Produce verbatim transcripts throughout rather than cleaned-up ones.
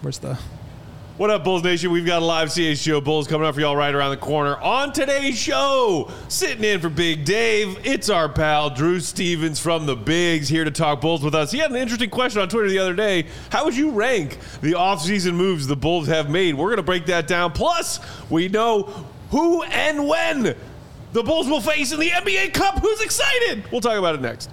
Where's the... What up, Bulls Nation? We've got a live C H G O Bulls coming up for y'all right around the corner. On today's show, sitting in for Big Dave, it's our pal Drew Stevens from the Bigs here to talk Bulls with us. He had an interesting question on Twitter the other day. How would you rank the offseason moves the Bulls have made? We're going to break that down. Plus, we know who and when the Bulls will face in the N B A Cup. Who's excited? We'll talk about it next.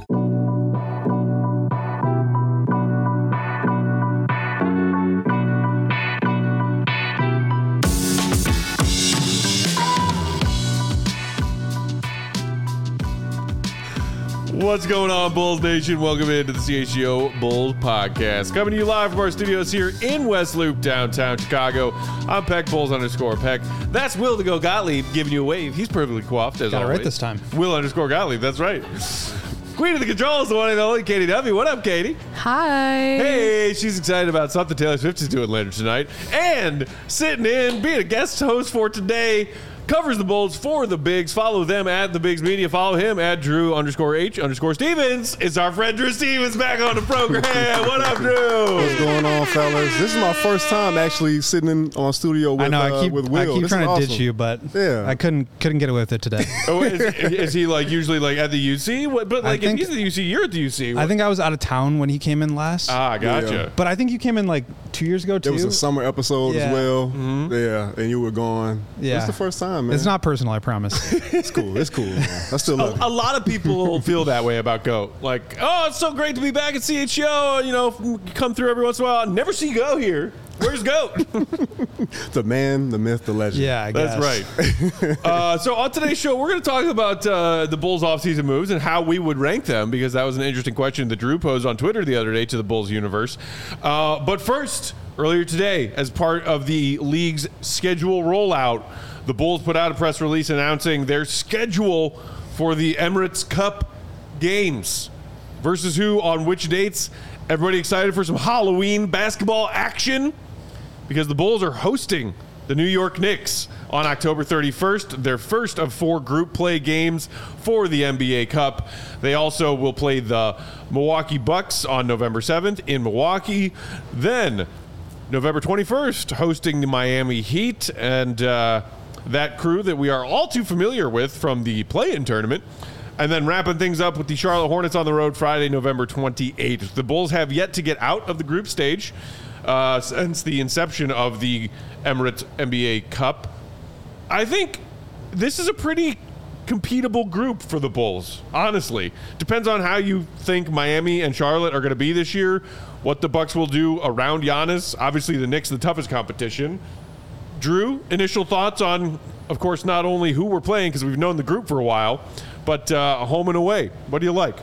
What's going on, Bulls Nation? Welcome into the C H G O Bulls podcast. Coming to you live from our studios here in West Loop, downtown Chicago. I'm Peck, Bulls underscore Peck. That's Will to go Gottlieb giving you a wave. He's perfectly coiffed, as Got it always. right this time. Will underscore Gottlieb, that's right. Queen of the controls, the one and only Katie W. What up, Katie? Hi. Hey, she's excited about something Taylor Swift is doing later tonight. And sitting in, being a guest host for today, covers the Bulls for the Bigs. Follow them at the Bigs Media. Follow him at Drew underscore H underscore Stevens. It's our friend Drew Stevens back on the program. What up, Drew? What's going on, fellas? This is my first time actually sitting in on studio with, I know, I keep, uh, with Will. I keep this trying to awesome. ditch you, but yeah. I couldn't couldn't get away with it today. Oh, is, is he like usually like at the U C? What, but like think, if he's at the U C, you're at the U C. What? I think I was out of town when he came in last. Ah, gotcha. Yeah. But I think you came in like two years ago, too. It was a summer episode Yeah. as well. Mm-hmm. Yeah, and you were gone. Yeah. It's the first time, man. It's not personal, I promise. It's cool. It's cool. Man. I still love A, a it. lot of people feel that way about Goat. Like, oh, it's so great to be back at C H G O. You know, come through every once in a while. Never see Go here. Where's Goat? The man, the myth, the legend. Yeah, I guess. That's right. uh, so on today's show, we're going to talk about uh, the Bulls' offseason moves and how we would rank them, because that was an interesting question that Drew posed on Twitter the other day to the Bulls universe. Uh, but first, earlier today, as part of the league's schedule rollout, the Bulls put out a press release announcing their schedule for the Emirates Cup games. Versus who on which dates. Everybody excited for some Halloween basketball action? Because the Bulls are hosting the New York Knicks on October thirty-first, their first of four group play games for the N B A Cup. They also will play the Milwaukee Bucks on November seventh in Milwaukee. Then November twenty-first, hosting the Miami Heat and uh, that crew that we are all too familiar with from the play-in tournament. And then wrapping things up with the Charlotte Hornets on the road Friday, November twenty-eighth. The Bulls have yet to get out of the group stage uh, since the inception of the Emirates N B A Cup. I think this is a pretty competable group for the Bulls, honestly. Depends on how you think Miami and Charlotte are going to be this year, what the Bucks will do around Giannis. Obviously, the Knicks, the toughest competition. Drew, initial thoughts on, of course, not only who we're playing, because we've known the group for a while, but uh, home and away. What do you like?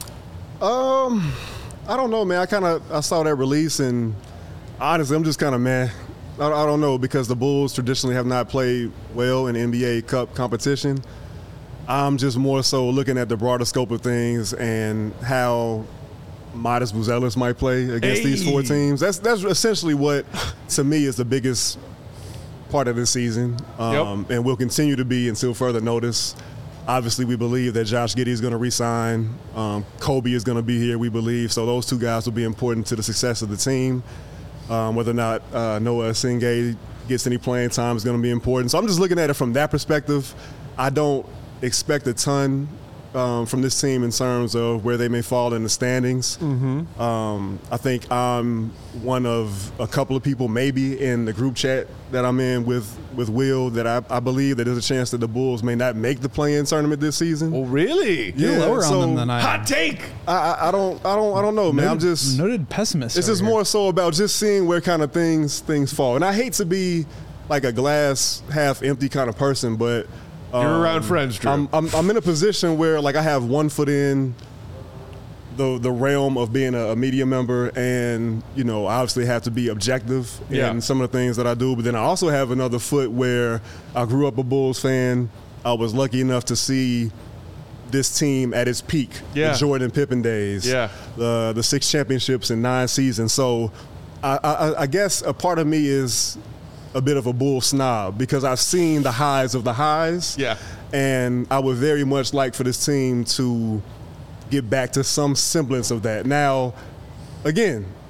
Um, I don't know, man. I kind of I saw that release, and honestly, I'm just kind of meh. I, I don't know, because the Bulls traditionally have not played well in N B A Cup competition. I'm just more so looking at the broader scope of things and how Modest Buzelis might play against Hey. these four teams. That's that's essentially what, to me, is the biggest part of this season, um, Yep. and will continue to be until further notice. Obviously, we believe that Josh Giddey is going to re-sign. Um, Kobe is going to be here, we believe. So those two guys will be important to the success of the team. Um, whether or not uh, Noah Singay gets any playing time is going to be important. So I'm just looking at it from that perspective. I don't expect a ton um, from this team in terms of where they may fall in the standings. Mm-hmm. Um, I think I'm one of a couple of people maybe in the group chat that I'm in with, with Will that I, I believe that there's a chance that the Bulls may not make the play-in tournament this season. Oh, really? You're Yeah, lower so- on them than I am. Hot take. I, I, I don't I don't I don't know, man. I'm Noted- just noted pessimist. It's over just here. more so about just seeing where kind of things things fall. And I hate to be like a glass half empty kind of person, but um, You're around friends, Drew. I'm, I'm I'm in a position where like I have one foot in the the realm of being a, a media member, and you know I obviously have to be objective Yeah. in some of the things that I do. But then I also have another foot where I grew up a Bulls fan. I was lucky enough to see this team at its peak, Yeah. the Jordan Pippen days, Yeah. the the six championships in nine seasons. So I, I, I guess a part of me is a bit of a Bull snob because I've seen the highs of the highs. Yeah. And I would very much like for this team to get back to some semblance of that. Now, again,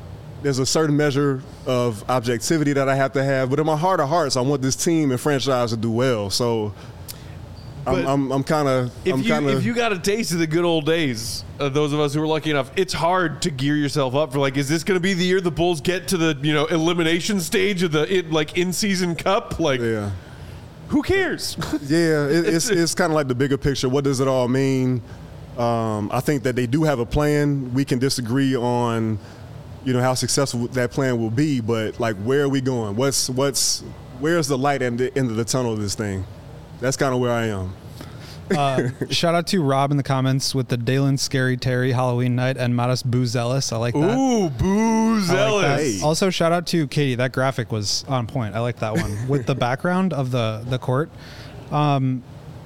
there's a certain measure of objectivity that I have to have, but in my heart of hearts, I want this team and franchise to do well. So I'm, I'm, I'm kind of, I'm If you, kind of. if you got a taste of the good old days, uh, those of us who were lucky enough, it's hard to gear yourself up for like, is this going to be the year the Bulls get to the you know elimination stage of the it, like in season cup? Like, yeah. who cares? Yeah, it, it's it's kind of like the bigger picture. What does it all mean? Um, I think that they do have a plan. We can disagree on, you know, how successful that plan will be, but like, where are we going? What's what's where's the light at the end of the tunnel of this thing? That's kind of where I am. Uh, shout out to Rob in the comments with the Dalen Scary Terry Halloween night and Modest Boo Zealous. I like that. Ooh, boo I like zealous. that. Hey. Also, shout out to Katie. That graphic was on point. I like that one with the background of the the court. Um,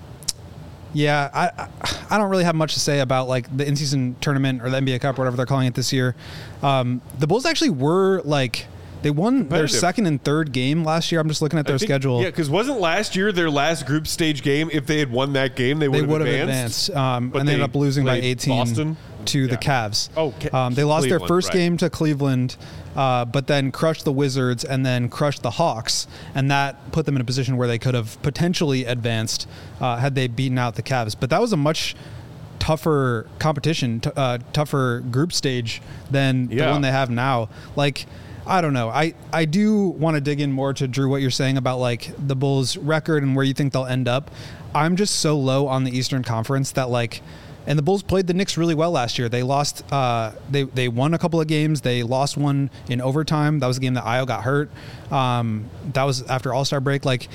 yeah, I, I I don't really have much to say about like the in-season tournament or the N B A Cup or whatever they're calling it this year. Um, the Bulls actually were like. They won their Competitive. second and third game last year. I'm just looking at their I think- schedule. Yeah, because wasn't last year their last group stage game? If they had won that game, they They would would have have advanced. advanced, um, But and they ended they up losing by played eighteen Boston? to the Yeah. Cavs. Oh, Ca- um, they lost their Cleveland, first right. game to Cleveland, uh, but then crushed the Wizards and then crushed the Hawks, and that put them in a position where they could have potentially advanced uh, had they beaten out the Cavs. But that was a much tougher competition, t- uh, tougher group stage than Yeah. the one they have now. Like. I don't know. I, I do want to dig in more to Drew what you're saying about like the Bulls record and where you think they'll end up. I'm just so low on the Eastern Conference that like, and the Bulls played the Knicks really well last year. They lost, uh, they they won a couple of games. They lost one in overtime. That was a game that Io got hurt. Um, that was after All-Star break. Like,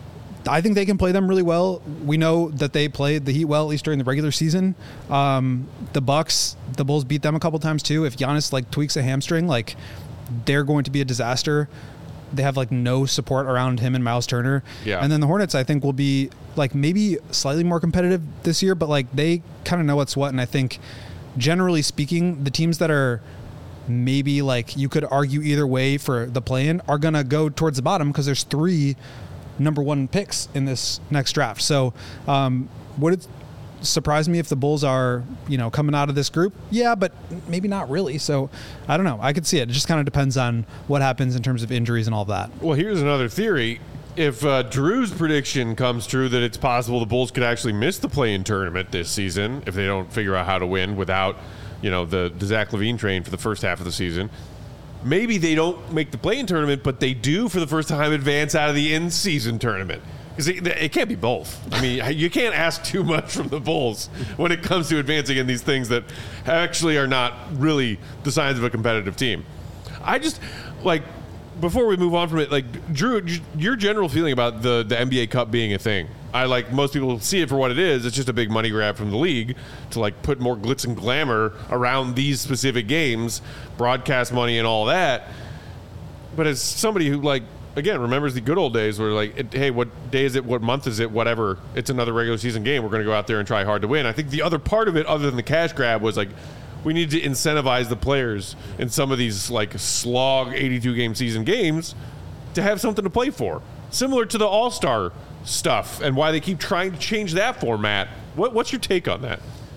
I think they can play them really well. We know that they played the Heat well, at least during the regular season. Um, the Bucks, the Bulls beat them a couple times too. If Giannis like tweaks a hamstring, like. They're going to be a disaster. They have like no support around him and Miles Turner. Yeah. And then the Hornets, I think, will be like maybe slightly more competitive this year, but like they kind of know what's what. And I think generally speaking, the teams that are maybe like you could argue either way for the play-in are going to go towards the bottom because there's three number one picks in this next draft. So um, would it surprise me if the Bulls are, you know, coming out of this group? Yeah, but maybe not really. So I don't know. I could see it. It just kind of depends on what happens in terms of injuries and all that. Well, here's another theory. If uh, Drew's prediction comes true that it's possible the Bulls could actually miss the play-in tournament this season if they don't figure out how to win without, you know, the, the Zach LaVine train for the first half of the season, maybe they don't make the play-in tournament, but they do for the first time advance out of the in-season tournament. Because it, it can't be both. I mean, you can't ask too much from the Bulls when it comes to advancing in these things that actually are not really the signs of a competitive team. I just, like, before we move on from it, like, Drew, your general feeling about the, the N B A Cup being a thing. I, like, most people see it for what it is. It's just a big money grab from the league to, like, put more glitz and glamour around these specific games, broadcast money and all that. But as somebody who, like, again, remembers the good old days where, like, it, hey, what day is it? What month is it? Whatever. It's another regular season game. We're going to go out there and try hard to win. I think the other part of it, other than the cash grab, was, like, we need to incentivize the players in some of these, like, slog eighty-two game season games to have something to play for. Similar to the All-Star stuff and why they keep trying to change that format. What, what's your take on that?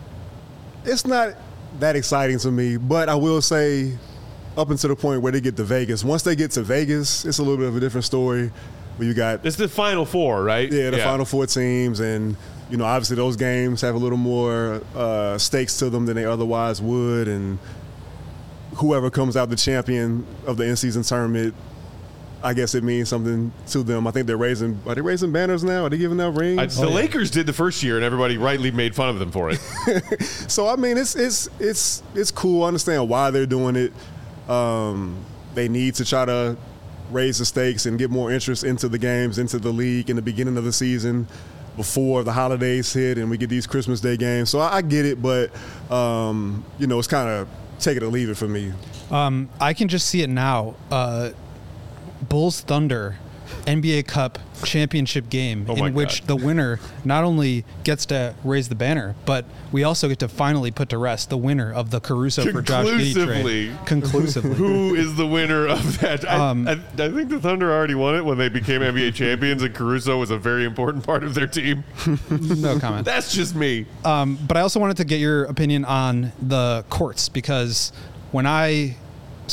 It's not that exciting to me, but I will say up until the point where they get to Vegas. Once they get to Vegas, it's a little bit of a different story where you got It's the Final Four, right? Yeah, the Final Four teams, and you know, obviously those games have a little more uh, stakes to them than they otherwise would, and whoever comes out the champion of the in-season tournament, I guess it means something to them. I think they're raising. Are they raising banners now? Are they giving out rings? I, the Oh, yeah. Lakers did the first year, and everybody rightly made fun of them for it. So I mean, it's it's it's it's cool. I understand why they're doing it. Um, they need to try to raise the stakes and get more interest into the games, into the league in the beginning of the season before the holidays hit and we get these Christmas Day games. So I, I get it, but, um, you know, it's kind of take it or leave it for me. Um, I can just see it now. Uh, Bulls Thunder N B A Cup championship game Oh my in which God. the winner not only gets to raise the banner, but we also get to finally put to rest the winner of the Caruso for Josh Giddey Conclusively. trade. Conclusively. Who is the winner of that? I, Um, I, I think the Thunder already won it when they became N B A champions, and Caruso was a very important part of their team. No comment. That's just me. Um, but I also wanted to get your opinion on the courts because when I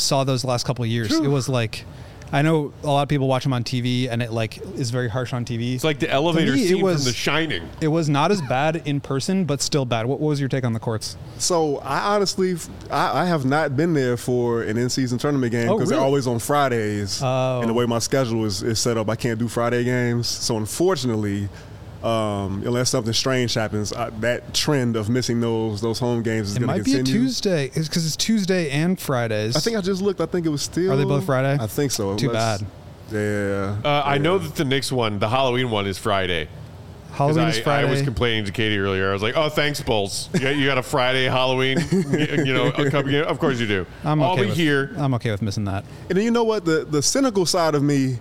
saw those last couple of years. It was like, I know a lot of people watch them on T V, and it like is very harsh on T V. It's like the elevator me, it scene was- from The Shining. It was not as bad in person, but still bad. What, what was your take on the courts? So I honestly, I, I have not been there for an in-season tournament game Oh, because they're really? always on Fridays. Oh. And the way my schedule is, is set up, I can't do Friday games. So unfortunately, um, unless something strange happens, I, that trend of missing those those home games is It going to might be continue. a Tuesday, because it's Tuesday and Fridays. I think I just looked. I think it was still. Are they both Friday? I think so. Too Let's- bad. Yeah. Uh, I yeah. know that the Knicks one, the Halloween one, is Friday. 'Cause Halloween I, is Friday. I was complaining to Katie earlier. I was like, "Oh, thanks, Bulls. You got, you got a Friday Halloween. you, you know, a couple, of course you do. I'm okay I'll be with, here." I'm okay with missing that. And then you know what? The the cynical side of me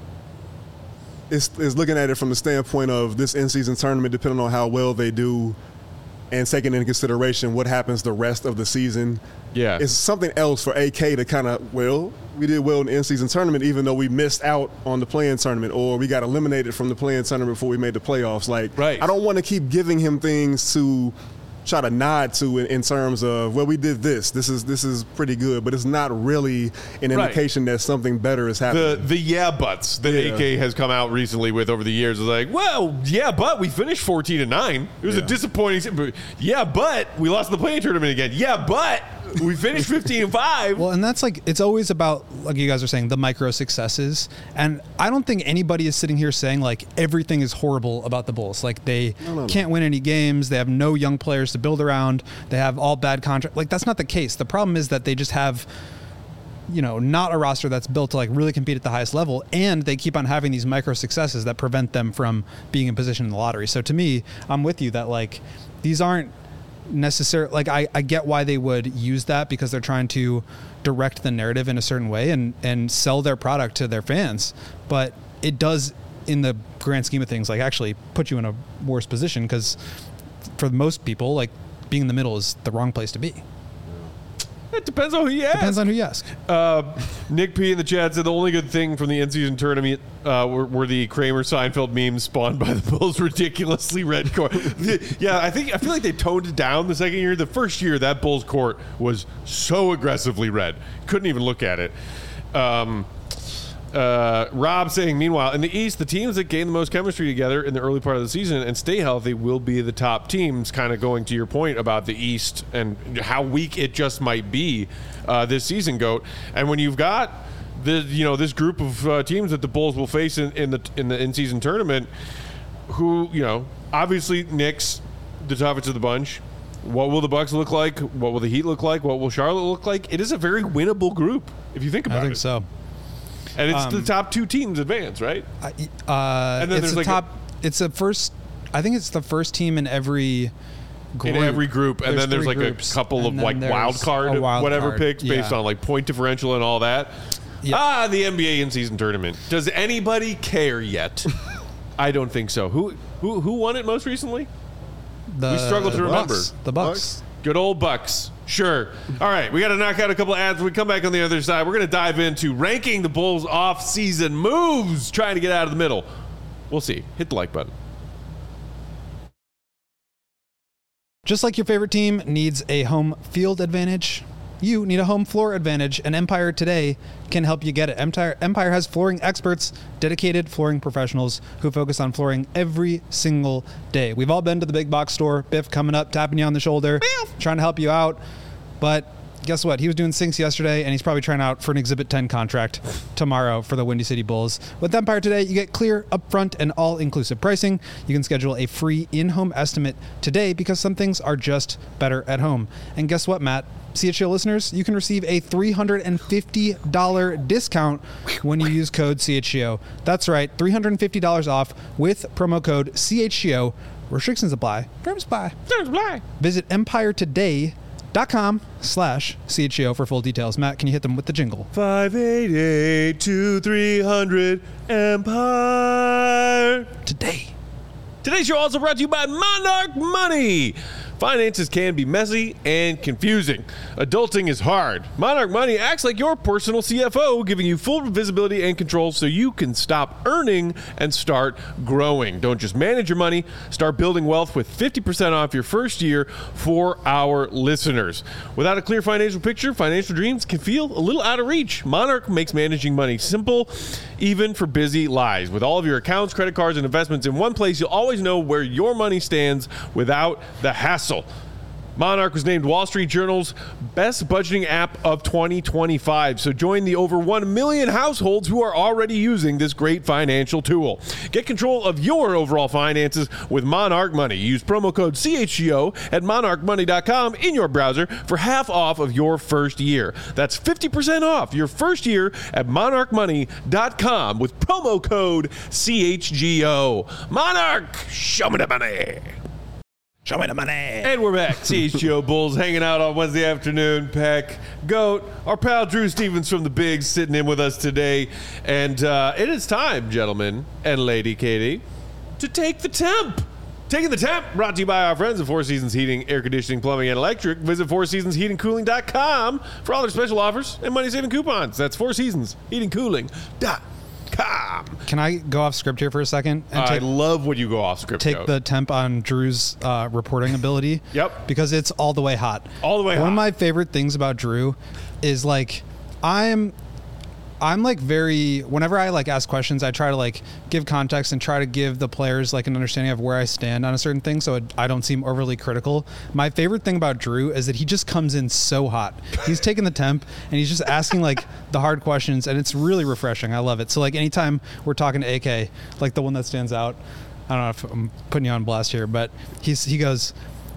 is is looking at it from the standpoint of this in-season tournament, depending on how well they do, and taking into consideration what happens the rest of the season. Yeah. It's something else for A K to kind of, well, we did well in the in-season tournament, even though we missed out on the play-in tournament, or we got eliminated from the play-in tournament before we made the playoffs. Like, Right. I don't want to keep giving him things to try to nod to in, in terms of, well, we did this. This is this is pretty good, but it's not really an Right. indication that something better is happening. The the yeah buts that Yeah. A K has come out recently with over the years is like, well, yeah, but we finished fourteen to nine. It was a Yeah. disappointing. se- but Yeah, but we lost the play-in tournament again. Yeah, but we finished fifteen and five. Well, and that's like, it's always about, like you guys are saying, the micro successes. And I don't think anybody is sitting here saying like everything is horrible about the Bulls. Like they no, no. can't win any games. They have no young players to build around. They have all bad contracts. Like that's not the case. The problem is that they just have, you know, not a roster that's built to like really compete at the highest level. And they keep on having these micro successes that prevent them from being in position in the lottery. So to me, I'm with you that like these aren't necessary. Like I, I get why they would use that because they're trying to direct the narrative in a certain way and and sell their product to their fans, but it does in the grand scheme of things like actually put you in a worse position because for most people like being in the middle is the wrong place to be. It depends on who you ask. Depends on who you ask. Uh, Nick P in the chat said the only good thing from the in-season tournament uh, were, were the Kramer Seinfeld memes spawned by the Bulls' ridiculously red court. The- yeah, I think I feel like they toned it down the second year. The first year, that Bulls court was so aggressively red, couldn't even look at it. Um, uh, Rob saying, meanwhile, in the East, the teams that gain the most chemistry together in the early part of the season and stay healthy will be the top teams, kind of going to your point about the East and how weak it just might be uh, this season, Goat. And when you've got the, you know, this group of uh, teams that the Bulls will face in, in the in the in-season tournament, who, you know, obviously Knicks, the toughest of the bunch. What will the Bucks look like? What will the Heat look like? What will Charlotte look like? It is a very winnable group, if you think about I think it. so. And it's Um, the top two teams advance, right? I, uh, And then it's there's the like a- top. it's a first. I think it's the first team in every group. In every group, and then there's three like groups, a couple and of then like there's wild card, a wild whatever card, picks based yeah. on like point differential and all that. Yeah. Ah, the N B A in-season tournament. Does anybody care yet? I don't think so. Who who who won it most recently? The we struggle to Bucks. remember. The Bucks. Good old Bucks. Sure. All right, we got to knock out a couple of ads. When we come back on the other side, we're going to dive into ranking the Bulls' off-season moves, trying to get out of the middle. We'll see. Hit the like button. Just like your favorite team needs a home field advantage, you need a home floor advantage, and Empire Today can help you get it. Empire, Empire has flooring experts, dedicated flooring professionals who focus on flooring every single day. We've all been to the big box store, Biff coming up, tapping you on the shoulder, trying to help you out, but guess what? He was doing sinks yesterday, and he's probably trying out for an Exhibit ten contract tomorrow for the Windy City Bulls. With Empire Today, you get clear, upfront, and all-inclusive pricing. You can schedule a free in-home estimate today because some things are just better at home. And guess what, Matt? C H G O listeners, you can receive a three hundred fifty dollars discount when you use code C H G O. That's right, three hundred fifty dollars off with promo code C H G O. Restrictions apply. Terms apply. Terms apply. Visit empire today dot com slash C H G O for full details. Matt, can you hit them with the jingle? five eight eight, two three hundred Empire. Today. Today's show also brought to you by Monarch Money. finances can be messy and confusing. Adulting is hard. Monarch Money acts like your personal C F O, giving you full visibility and control so you can stop earning and start growing. Don't just manage your money, start building wealth with fifty percent off your first year for our listeners. Without a clear financial picture, financial dreams can feel a little out of reach. Monarch makes managing money simple, even for busy lives. With all of your accounts, credit cards, and investments in one place, you'll always know where your money stands without the hassle. Monarch was named Wall Street Journal's best budgeting app of twenty twenty-five. So join the over one million households who are already using this great financial tool. Get control of your overall finances with Monarch Money. Use promo code C H G O at monarch money dot com in your browser for half off of your first year. That's fifty percent off your first year at monarch money dot com with promo code C H G O. Monarch, show me the money. Show me the money. And we're back. C H G O Bulls hanging out on Wednesday afternoon. Peck, Goat, our pal Drew Stevens from the Bigs sitting in with us today. And uh, it is time, gentlemen and Lady Katie, to take the temp. Taking the temp, brought to you by our friends at Four Seasons Heating, Air Conditioning, Plumbing, and Electric. Visit four seasons heating cooling dot com for all their special offers and money-saving coupons. That's Four Seasons Heating Cooling dot com. Can I go off script here for a second? And I take, love when you go off script. take Goat. the temp on Drew's uh, reporting ability. Yep. Because it's all the way hot. All the way One hot. of my favorite things about Drew is like, I'm, I'm like very, whenever I like ask questions, I try to like give context and try to give the players like an understanding of where I stand on a certain thing, so it, I don't seem overly critical. My favorite thing about Drew is that he just comes in so hot. He's taking the temp and he's just asking like the hard questions, and it's really refreshing. I love it. So like anytime we're talking to A K, like the one that stands out, I don't know if I'm putting you on blast here, but he's he goes,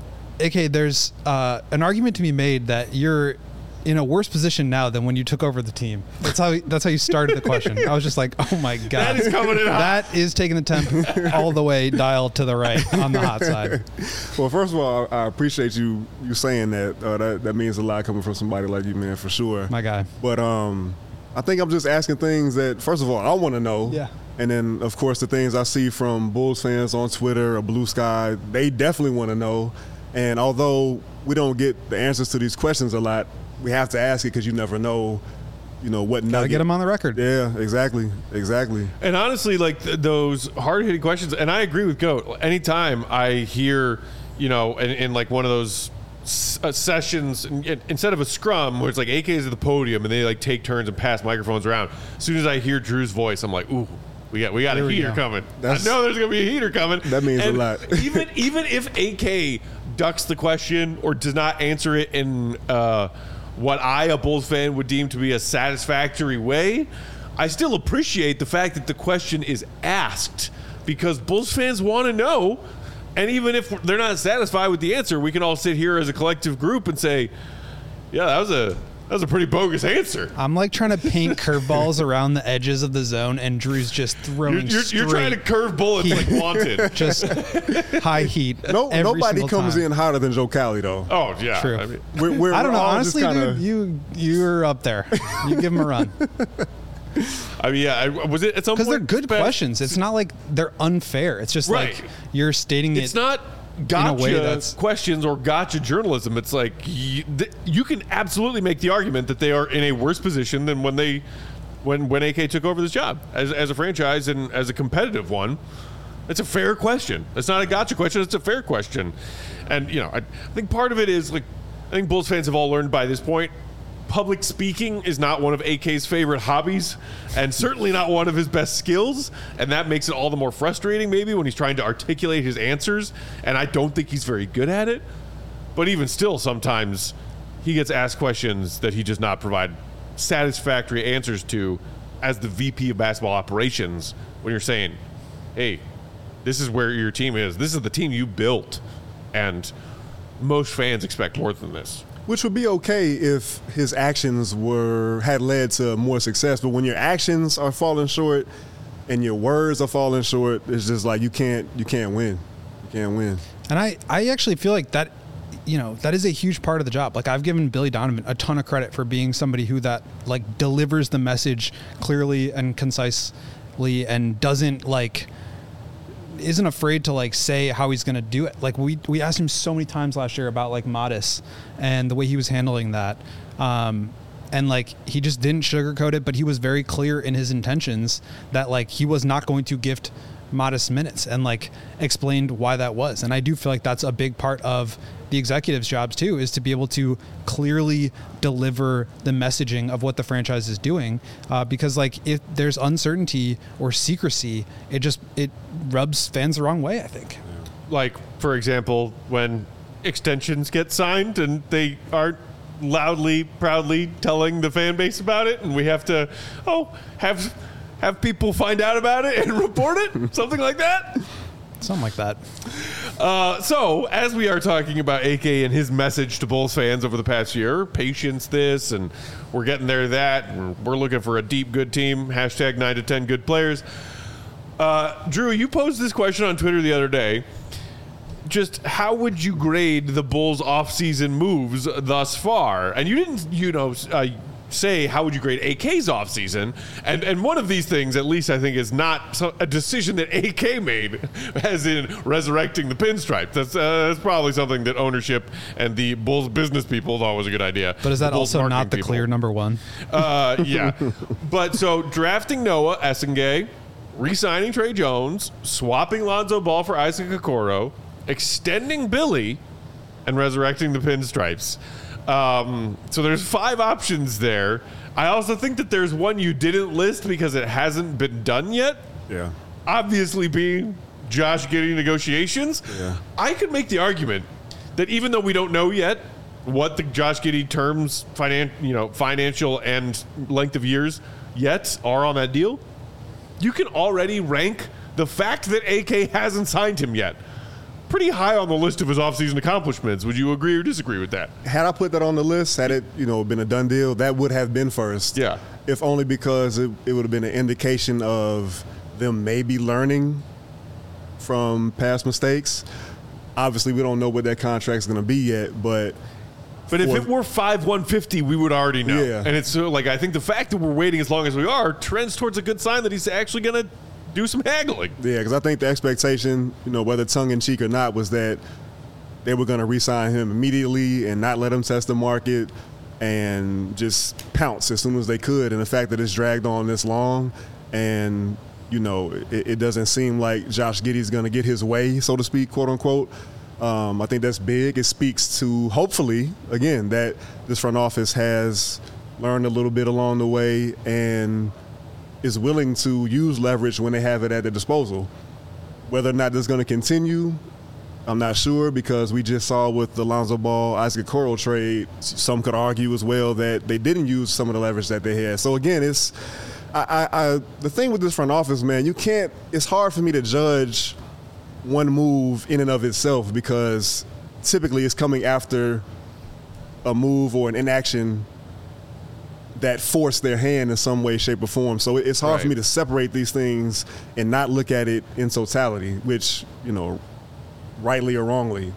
A K, there's uh, an argument to be made that you're in a worse position now than when you took over the team. That's how that's how you started the question. I was just like, oh my god, That is coming in hot. That is taking the temp all the way dial to the right on the hot side. Well, first of all, I appreciate you you saying that. Uh, that that means a lot coming from somebody like you, man, for sure. My guy. But um, I think I'm just asking things that, first of all, I want to know. Yeah. And then, of course, the things I see from Bulls fans on Twitter or Blue Sky, they definitely want to know. And although we don't get the answers to these questions a lot, we have to ask it because you never know, you know, what Gotta nugget. get him on the record. Yeah, exactly, exactly. And honestly, like th- those hard-hitting questions, and I agree with Goat. Anytime I hear, you know, in, in like one of those s- uh, sessions, in, in- instead of a scrum where it's like A K is at the podium and they like take turns and pass microphones around, as soon as I hear Drew's voice, I'm like, ooh, we got we got Here a we heater go. coming. That's- I know there's gonna be a heater coming. That means a And lot. even even if A K ducks the question or does not answer it in uh, what I, a Bulls fan, would deem to be a satisfactory way, I still appreciate the fact that the question is asked because Bulls fans want to know. And even if they're not satisfied with the answer, we can all sit here as a collective group and say, yeah, that was a that was a pretty bogus answer. I'm like trying to paint curveballs around the edges of the zone, and Drew's just throwing You're, you're, you're trying to straight, curve bullets like wanted. just high heat. No, every nobody single comes time. in hotter than Joe Cali, though. Oh, yeah. True. I mean, We're, we're, I don't we're know. all Honestly, just kinda, dude, you you're up there. You give him a run I mean, yeah. I, was it at some because point? they're good Spe- questions. It's not like they're unfair. It's just Right. like you're stating It's it. not gotcha way that's- questions or gotcha journalism. It's like you, th- you can absolutely make the argument that they are in a worse position than when they when when A K took over this job as as a franchise and as a competitive one. It's a fair question. It's not a gotcha question. It's a fair question. And you know, I, I think part of it is like I think Bulls fans have all learned by this point. Public speaking is not one of A K's favorite hobbies and certainly not one of his best skills, and that makes it all the more frustrating maybe when he's trying to articulate his answers, and I don't think he's very good at it. But even still, sometimes he gets asked questions that he does not provide satisfactory answers to as the V P of basketball operations when you're saying, hey, this is where your team is. This is the team you built, and most fans expect more than this. Which would be okay if his actions were had led to more success, but when your actions are falling short and your words are falling short, it's just like you can't you can't win. You can't win. And I, I actually feel like that, you know, that is a huge part of the job. Like I've given Billy Donovan a ton of credit for being somebody who that like delivers the message clearly and concisely and doesn't like, isn't afraid to like say how he's going to do it. Like we we asked him so many times last year about like Modest and the way he was handling that. Um, and like he just didn't sugarcoat it, but he was very clear in his intentions that like he was not going to gift Modest minutes, and like explained why that was. And I do feel like that's a big part of the executives' jobs too, is to be able to clearly deliver the messaging of what the franchise is doing, uh, because like if there's uncertainty or secrecy, it just it rubs fans the wrong way, I think. Like, for example, when extensions get signed and they aren't loudly, proudly telling the fan base about it, and we have to oh have have people find out about it and report it, something like that. Something like that. Uh, so, as we are talking about A K and his message to Bulls fans over the past year, patience this, and we're getting there that, and we're looking for a deep, good team, hashtag nine to ten good players. Uh, Drew, you posed this question on Twitter the other day. Just how would you grade the Bulls' offseason moves thus far? And you didn't, you know, uh, say how would you grade A K's offseason, and and one of these things, at least I think, is not so, a decision that A K made, as in resurrecting the pinstripe. That's, uh, that's probably something that ownership and the Bulls business people thought was a good idea. But is that also not the people. clear number one? Uh, yeah. But so drafting Noah Essengay, re-signing Trey Jones, swapping Lonzo Ball for Isaac Okoro, extending Billy, and resurrecting the pinstripes. Um, so there's five options there. I also think that there's one you didn't list because it hasn't been done yet. Yeah. Obviously being Josh Giddey negotiations. Yeah. I could make the argument that even though we don't know yet what the Josh Giddey terms, finan- you know, financial and length of years yet are on that deal, you can already rank the fact that A K hasn't signed him yet pretty high on the list of his offseason accomplishments. Would you agree or disagree with that? Had I put that on the list, had it, you know, been a done deal, that would have been first. Yeah. If only because it, it would have been an indication of them maybe learning from past mistakes. Obviously, we don't know what that contract's going to be yet, but But if for- it were five one fifty, we would already know. Yeah. And it's uh, like, I think the fact that we're waiting as long as we are trends towards a good sign that he's actually going to do some haggling. Yeah, because I think the expectation, you know, whether tongue-in-cheek or not, was that they were going to re-sign him immediately and not let him test the market and just pounce as soon as they could. And the fact that it's dragged on this long and, you know, it, it doesn't seem like Josh Giddey's going to get his way, so to speak, quote-unquote. Um, I think that's big. It speaks to, hopefully, again, that this front office has learned a little bit along the way and is willing to use leverage when they have it at their disposal. Whether or not this is going to continue, I'm not sure, because we just saw with the Lonzo Ball, Isaac Okoro trade, some could argue as well that they didn't use some of the leverage that they had. So again, it's I, I, I the thing with this front office, man, you can't. It's hard for me to judge one move in and of itself because typically it's coming after a move or an inaction that force their hand in some way, shape, or form. So it's hard Right. for me to separate these things and not look at it in totality, which, you know, rightly or wrongly.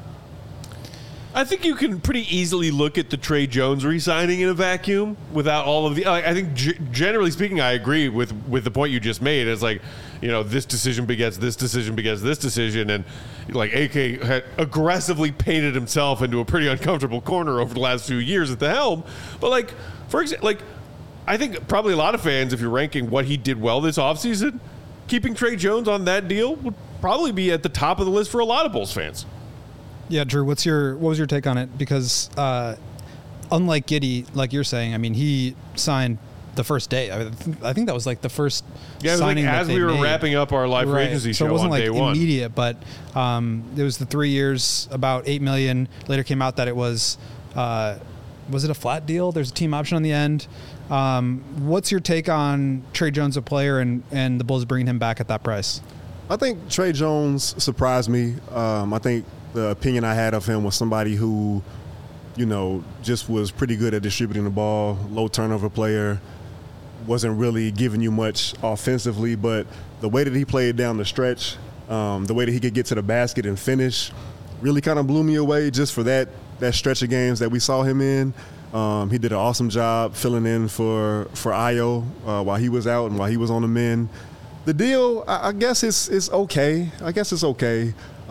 I think you can pretty easily look at the Trey Jones re-signing in a vacuum without all of the. Like, I think g- generally speaking, I agree with with the point you just made. It's like, you know, this decision begets this decision begets this decision, and like A K had aggressively painted himself into a pretty uncomfortable corner over the last few years at the helm. But like, for example, like I think probably a lot of fans, if you're ranking what he did well this offseason, keeping Trey Jones on that deal would probably be at the top of the list for a lot of Bulls fans. Yeah, Drew, what's your what was your take on it? Because uh, unlike Giddey, like you're saying, I mean, he signed the first day. I, th- I think that was like the first Yeah, it was like signing that as they we were made. wrapping up our live free Right. agency so show it wasn't on like day one. immediate, but um, it was the three years, about eight million. Later came out that it was uh, was it a flat deal? There's a team option on the end. Um, what's your take on Trey Jones, a player, and and the Bulls bringing him back at that price? I think Trey Jones surprised me. Um, I think the opinion I had of him was somebody who, you know, just was pretty good at distributing the ball, low turnover player, wasn't really giving you much offensively, but the way that he played down the stretch, um, the way that he could get to the basket and finish, really kind of blew me away just for that that stretch of games that we saw him in. Um, he did an awesome job filling in for for Ayo uh, while he was out and while he was on the men. The deal, I, I guess it's it's okay. I guess it's okay.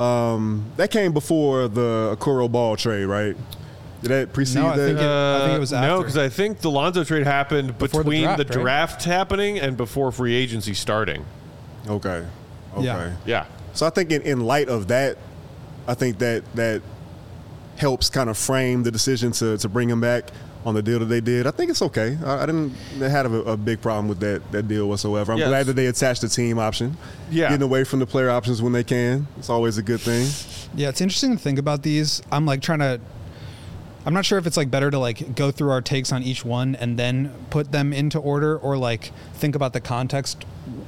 Um, that came before the Okoro Ball trade, right? Did that precede No, I that? think it- I think it was Uh, No, after. because I think the Lonzo trade happened Before the between the draft, right? draft, happening and before free agency starting. Okay. Okay. Yeah. Yeah. So I think in, in light of that, I think that that helps kind of frame the decision to, to bring him back on the deal that they did. I think it's okay. I, I didn't have a, a big problem with that that deal whatsoever. I'm Yes. glad that they attached the team option. Yeah. Getting away from the player options when they can. It's always a good thing. Yeah, it's interesting to think about these. I'm like trying to. I'm not sure if it's like better to like go through our takes on each one and then put them into order, or like think about the context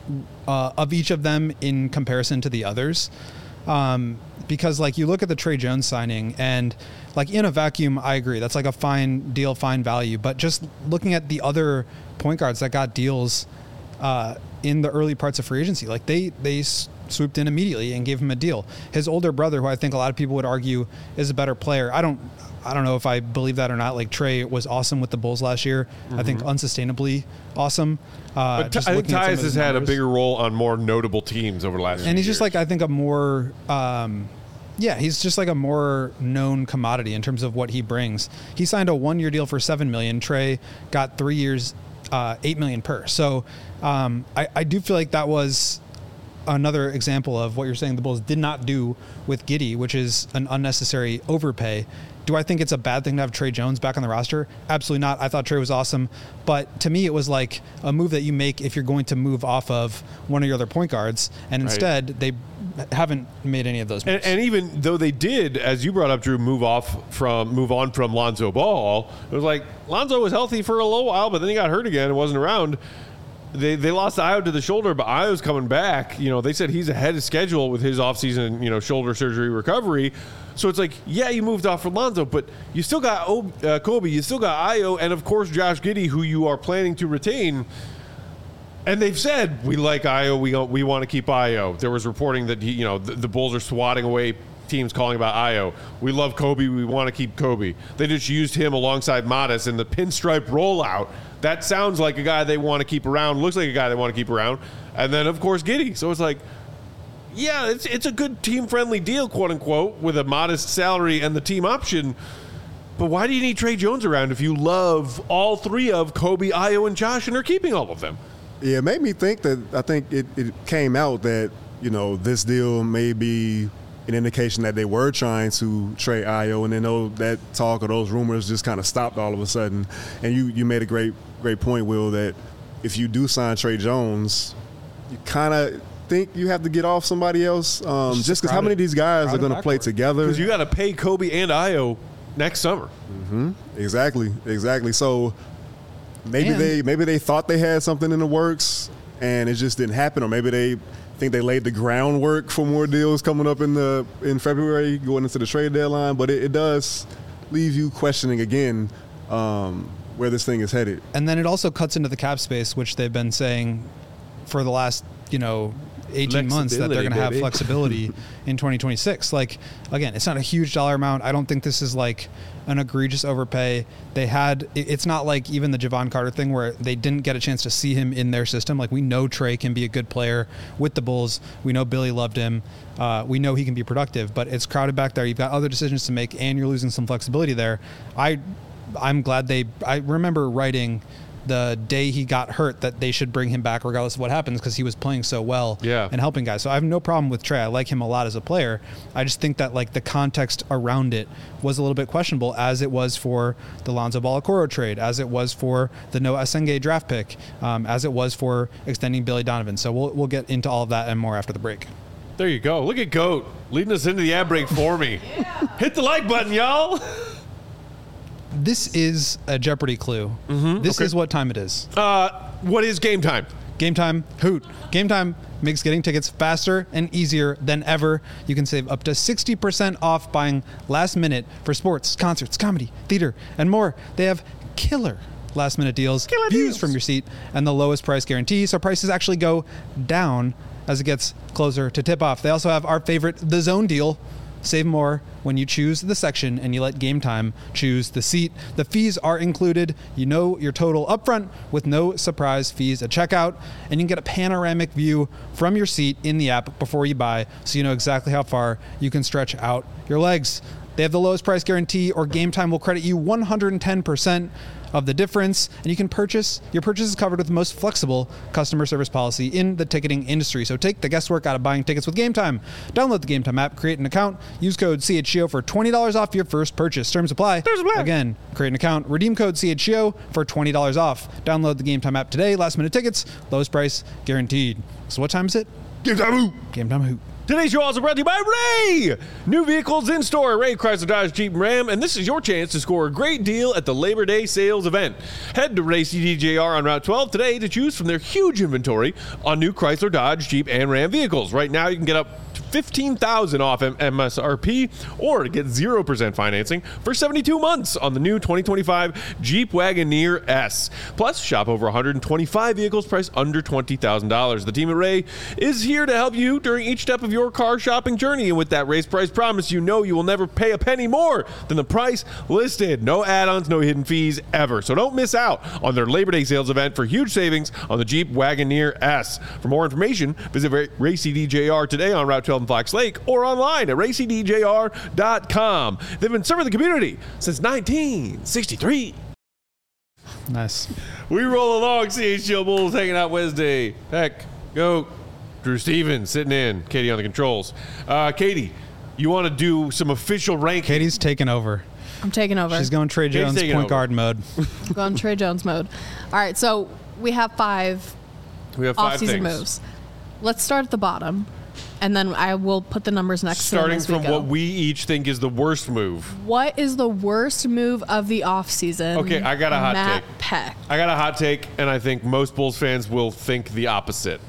uh, of each of them in comparison to the others. Um, because like you look at the Trey Jones signing and like in a vacuum, I agree. That's like a fine deal, fine value. But just looking at the other point guards that got deals uh, in the early parts of free agency, like they, they s- swooped in immediately and gave him a deal. His older brother, who I think a lot of people would argue is a better player. I don't, I don't know if I believe that or not. Like Trey was awesome with the Bulls last year. I think unsustainably awesome. Uh, But just I think looking at some Tyus of his has had a numbers. bigger role on more notable teams over the last few And he's just years. like, I think a more, um, yeah, he's just like a more known commodity in terms of what he brings. He signed a one-year deal for seven million. Trey got three years, uh, eight million per. So um, I, I do feel like that was another example of what you're saying the Bulls did not do with Giddey, which is an unnecessary overpay. Do I think it's a bad thing to have Trey Jones back on the roster? Absolutely not. I thought Trey was awesome. But to me, it was like a move that you make if you're going to move off of one of your other point guards. And Right. instead, they haven't made any of those moves. And, and even though they did, as you brought up, Drew, move off from move on from Lonzo Ball, it was like Lonzo was healthy for a little while, but then he got hurt again and wasn't around. They they lost Io to the shoulder, but Io's coming back. You know, they said he's ahead of schedule with his offseason, you know, shoulder surgery recovery. So it's like, yeah, you moved off for Lonzo, but you still got o- uh, Kobe, you still got Io, and of course Josh Giddey, who you are planning to retain. And they've said, we like Io, we we want to keep Io. There was reporting that, he, you know, the, the Bulls are swatting away teams calling about Io. We love Kobe, we want to keep Kobe. They just used him alongside Modest in the pinstripe rollout. That sounds like a guy they want to keep around, looks like a guy they want to keep around. And then, of course, Giddey. So it's like, yeah, it's, it's a good team-friendly deal, quote-unquote, with a modest salary and the team option. But why do you need Trey Jones around if you love all three of Kobe, Io, and Josh and are keeping all of them? Yeah, it made me think that I think it, it came out that, you know, this deal may be an indication that they were trying to trade Io, and then those, that talk or those rumors just kind of stopped all of a sudden. And you, you made a great great point, Will, that if you do sign Trey Jones, you kind of think you have to get off somebody else, um, Just just because how crowded- many of these guys are crowded going to play backcourt. together? Because you got to pay Kobe and Io next summer. Exactly, exactly. So maybe And- they maybe they thought they had something in the works and it just didn't happen, or maybe they think they laid the groundwork for more deals coming up in the in February, going into the trade deadline. But it, it does leave you questioning again um, where this thing is headed. And then it also cuts into the cap space, which they've been saying for the last, you know, eighteen months that they're going to have baby. flexibility in twenty twenty-six. Like, again, it's not a huge dollar amount. I don't think this is like an egregious overpay. They had, it- it's not like even the Javon Carter thing where they didn't get a chance to see him in their system. Like, we know Trey can be a good player with the Bulls. We know Billy loved him. Uh, we know he can be productive, but it's crowded back there. You've got other decisions to make and you're losing some flexibility there. I, I'm glad they, I remember writing the day he got hurt that they should bring him back regardless of what happens because he was playing so well Yeah. and helping guys. So I have no problem with Trey. I like him a lot as a player. I just think that like the context around it was a little bit questionable, as it was for the Lonzo Ball Okoro trade, as it was for the Noah Asenge draft pick, um, as it was for extending Billy Donovan. So we'll we'll get into all of that and more after the break. There you go. Look at Goat leading us into the ad break for me. Hit the like button, y'all. This is a Jeopardy clue. This okay. is what time it is. Uh, what is game time? Game Time Hoot. Game Time makes getting tickets faster and easier than ever. You can save up to sixty percent off buying last minute for sports, concerts, comedy, theater, and more. They have killer last minute deals, Killer views deals. from your seat, and the lowest price guarantee, so prices actually go down as it gets closer to tip off. They also have our favorite The Zone deal. save more when you choose the section and you let Game Time choose the seat. The fees are included. You know your total upfront with no surprise fees at checkout, and you can get a panoramic view from your seat in the app before you buy, so you know exactly how far you can stretch out your legs. They have the lowest price guarantee, or Game Time will credit you one hundred ten percent of the difference, and you can purchase, your purchase is covered with the most flexible customer service policy in the ticketing industry. So take the guesswork out of buying tickets with Game Time. Download the Game Time app, create an account, use code C H G O for twenty dollars off your first purchase. Terms apply. Terms apply. Again, create an account, redeem code C H G O for twenty dollars off. Download the Game Time app today. Last minute tickets, lowest price guaranteed. So what time is it? Game Time Hoop. Game Time Hoop. Today's show also brought to you by Ray! New vehicles in store at Ray Chrysler Dodge Jeep and Ram, and this is your chance to score a great deal at the Labor Day sales event. Head to Ray C D J R on Route twelve today to choose from their huge inventory on new Chrysler Dodge Jeep and Ram vehicles. Right now you can get up to fifteen thousand dollars off M S R P or get zero percent financing for seventy-two months on the new twenty twenty-five Jeep Wagoneer S. Plus, shop over one hundred twenty-five vehicles priced under twenty thousand dollars. The team at Ray is here to help you during each step of your your car shopping journey, and with that raised price promise, you know you will never pay a penny more than the price listed. No add-ons, no hidden fees ever. So don't miss out on their Labor Day sales event for huge savings on the Jeep Wagoneer S. For more information, visit Ray C D J R today on Route twelve in Fox Lake or online at ray c d j r dot com. They've been serving the community since nineteen sixty-three. Nice. We roll along, C H G O Bulls hanging out Wednesday. Heck, go. Drew Stevens sitting in. Katie on the controls. Uh, Katie, you want to do some official ranking? Katie's taking over. I'm taking over. She's going Trey Jones point over. guard mode. I'm going Trey Jones mode. All right, so we have five, we have five off-season things. moves. Let's start at the bottom, and then I will put the numbers next Starting to them as from we go. what we each think is the worst move. What is the worst move of the offseason? Okay, I got a hot Matt take. Peck. I got a hot take, and I think most Bulls fans will think the opposite.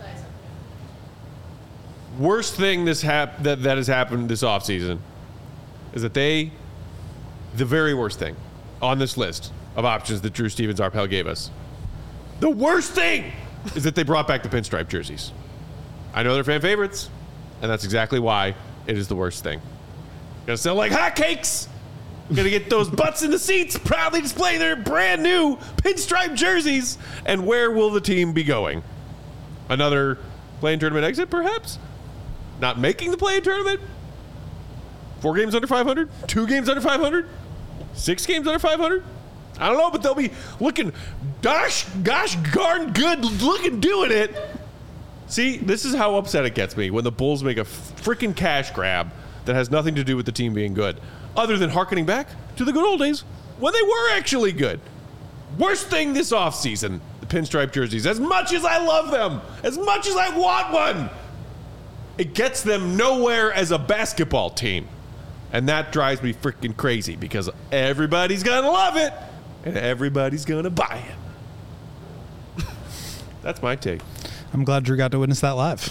Worst thing this hap- that, that has happened this offseason is that they, the very worst thing on this list of options that Drew Stevens Arpel gave us, the worst thing is that they brought back the pinstripe jerseys. I know they're fan favorites, and that's exactly why it is the worst thing. Gonna sell like hotcakes. We're gonna get those butts in the seats, proudly display their brand new pinstripe jerseys. And where will the team be going? Another play-in tournament exit, perhaps? Not making the play-in tournament? Four games under five hundred? Two games under five hundred? Six games under five hundred? I don't know, but they'll be looking, gosh, gosh, darn good looking doing it. See, this is how upset it gets me when the Bulls make a freaking cash grab that has nothing to do with the team being good, other than hearkening back to the good old days when they were actually good. Worst thing this offseason, the pinstripe jerseys. As much as I love them, as much as I want one, it gets them nowhere as a basketball team. And that drives me freaking crazy because everybody's going to love it and everybody's going to buy it. That's my take. I'm glad Drew got to witness that live.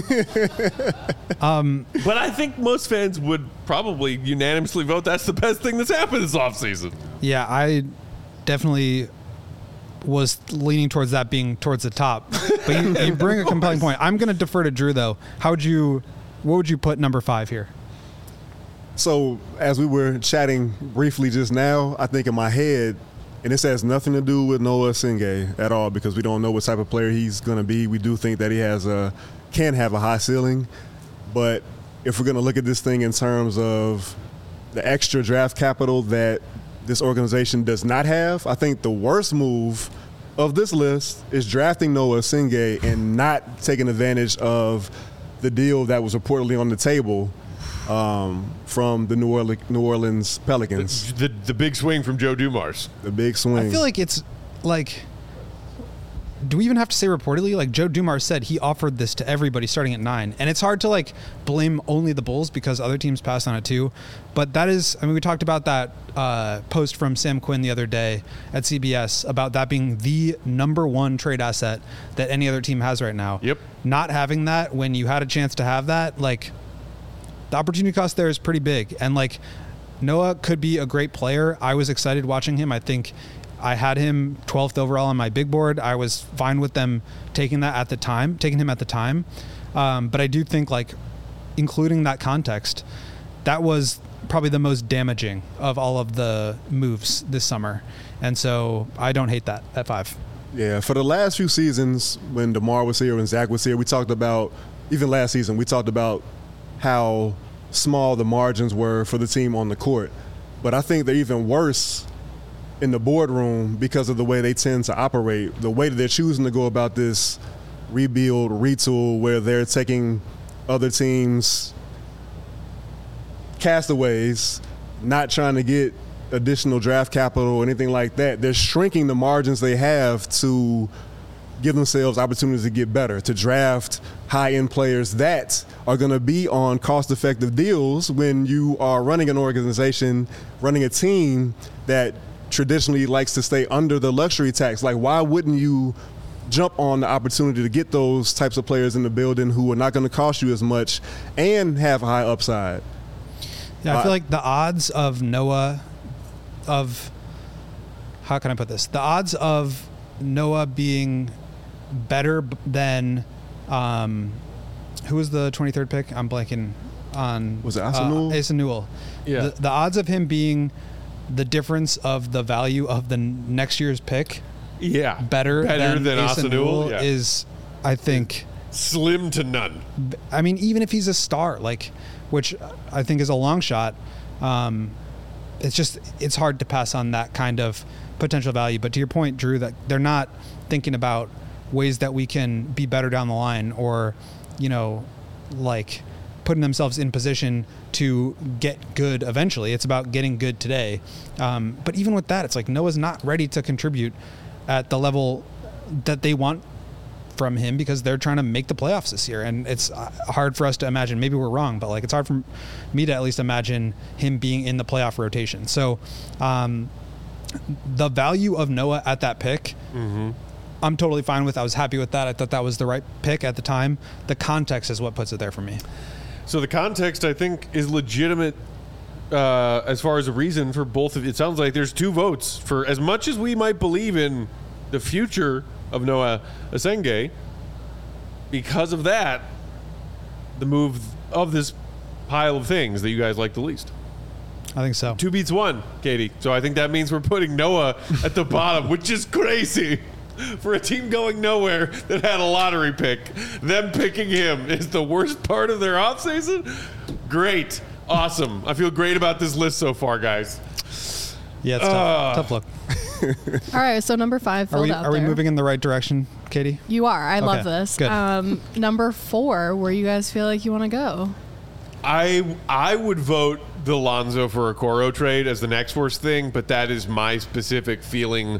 um, but I think most fans would probably unanimously vote that's the best thing that's happened this offseason. Yeah, I definitely was leaning towards that being towards the top. But you, you bring a compelling point. I'm going to defer to Drew, though. How would you, what would you put number five here? So as we were chatting briefly just now, I think in my head, and this has nothing to do with Noah Singay at all because we don't know what type of player he's going to be. We do think that he has a can have a high ceiling. But if we're going to look at this thing in terms of the extra draft capital that this organization does not have, I think the worst move of this list is drafting Noah Singay and not taking advantage of the deal that was reportedly on the table um, from the New Orleans, New Orleans Pelicans. The, the, the big swing from Joe Dumars. The big swing. I feel like it's like, do we even have to say reportedly? Like Joe Dumars said he offered this to everybody starting at nine. And it's hard to like blame only the Bulls because other teams passed on it too. But that is, I mean, we talked about that uh, post from Sam Quinn the other day at C B S about that being the number one trade asset that any other team has right now. Yep. Not having that when you had a chance to have that, like the opportunity cost there is pretty big. And like Noah could be a great player. I was excited watching him. I think I had him twelfth overall on my big board. I was fine with them taking that at the time, taking him at the time. Um, but I do think like including that context, that was probably the most damaging of all of the moves this summer. And so I don't hate that at five. Yeah, for the last few seasons when DeMar was here and Zach was here, we talked about, even last season, we talked about how small the margins were for the team on the court. But I think they're even worse in the boardroom because of the way they tend to operate, the way that they're choosing to go about this rebuild, retool, where they're taking other teams' castaways, not trying to get additional draft capital or anything like that. They're shrinking the margins they have to give themselves opportunities to get better, to draft high-end players that are going to be on cost-effective deals when you are running an organization, running a team that traditionally likes to stay under the luxury tax. Like, why wouldn't you jump on the opportunity to get those types of players in the building who are not going to cost you as much and have a high upside? Yeah, I Uh, feel like the odds of Noah, of, how can I put this? The odds of Noah being better b- than, um, who was the twenty-third pick? I'm blanking on. Was it Asa Newell? Uh, Asa Newell. Yeah. The, the odds of him being the difference of the value of the n- next year's pick Yeah. better, Better than, than Asa Asa Newell Newell, yeah. is, I think, Slim to none. I mean, even if he's a star, like, which I think is a long shot, um, it's just, it's hard to pass on that kind of potential value. But to your point, Drew, that they're not thinking about ways that we can be better down the line, or, you know, like putting themselves in position to get good eventually. It's about getting good today. Um, but even with that, it's like Noah's not ready to contribute at the level that they want from him because they're trying to make the playoffs this year. And it's hard for us to imagine, maybe we're wrong, but like, it's hard for me to at least imagine him being in the playoff rotation. So, um, the value of Noah at that pick, Mm-hmm. I'm totally fine with. I was happy with that. I thought that was the right pick at the time. The context is what puts it there for me. So the context, I think, is legitimate uh, as far as a reason for both of it. Sounds like there's two votes for as much as we might believe in the future of Noah Asenge. Because of that, the move of this pile of things that you guys like the least. I think so. Two beats one, Katie. So I think that means we're putting Noah at the bottom, which is crazy. For a team going nowhere that had a lottery pick, them picking him is the worst part of their offseason? Great. Awesome. I feel great about this list so far, guys. Yeah, it's Uh, tough. Tough look. All right, so number five Are filled we, out are we there. moving in the right direction, Katie? You are. I love Okay, this. good. Um, number four, where you guys feel like you want to go? I I would vote the Lonzo for Okoro trade as the next worst thing, but that is my specific feeling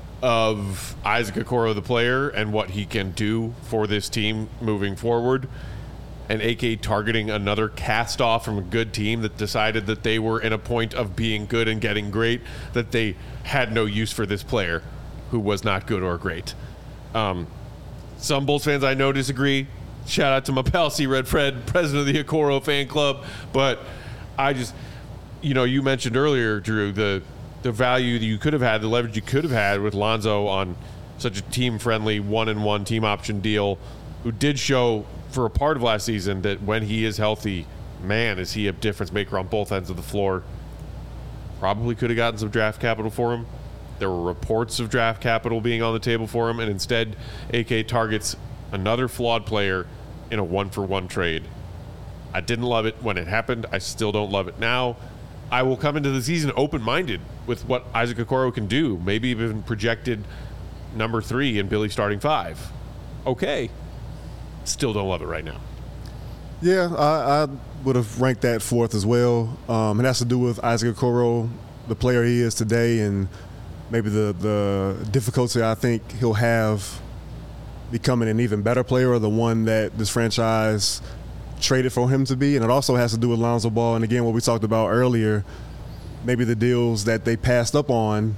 of Isaac Okoro, the player, and what he can do for this team moving forward. And A K targeting another cast off from a good team that decided that they were in a point of being good and getting great, that they had no use for this player who was not good or great. Um, some Bulls fans I know disagree. Shout out to my pal C Red Fred, president of the Okoro fan club. But I just, you know, you mentioned earlier, Drew, the the value that you could have had, the leverage you could have had with Lonzo on such a team-friendly one-and-one team option deal, who did show for a part of last season that when he is healthy, man, is he a difference maker on both ends of the floor. Probably could have gotten some draft capital for him. There were reports of draft capital being on the table for him, and instead A K targets another flawed player in a one-for-one trade. I didn't love it when it happened. I still don't love it now. I will come into the season open-minded with what Isaac Okoro can do. Maybe even projected number three and Billy starting five. Okay. Still don't love it right now. Yeah, I, I would have ranked that fourth as well. Um, it has to do with Isaac Okoro, the player he is today, and maybe the, the difficulty I think he'll have becoming an even better player, or the one that this franchise traded for him to be. And it also has to do with Lonzo Ball. And again, what we talked about earlier, maybe the deals that they passed up on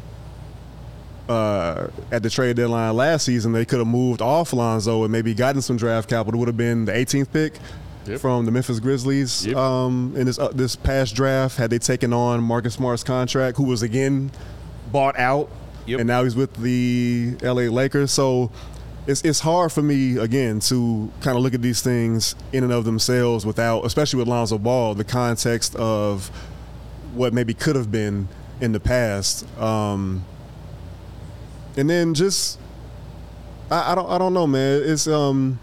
uh, at the trade deadline last season, they could have moved off Lonzo and maybe gotten some draft capital. It would have been the eighteenth pick Yep. from the Memphis Grizzlies Yep. um, in this, uh, this past draft, had they taken on Marcus Smart's contract, who was again bought out. Yep. And now he's with the L A Lakers. So it's it's hard for me again to kind of look at these things in and of themselves without, especially with Lonzo Ball, the context of what maybe could have been in the past, um, and then just I, I don't I don't know, man. It's um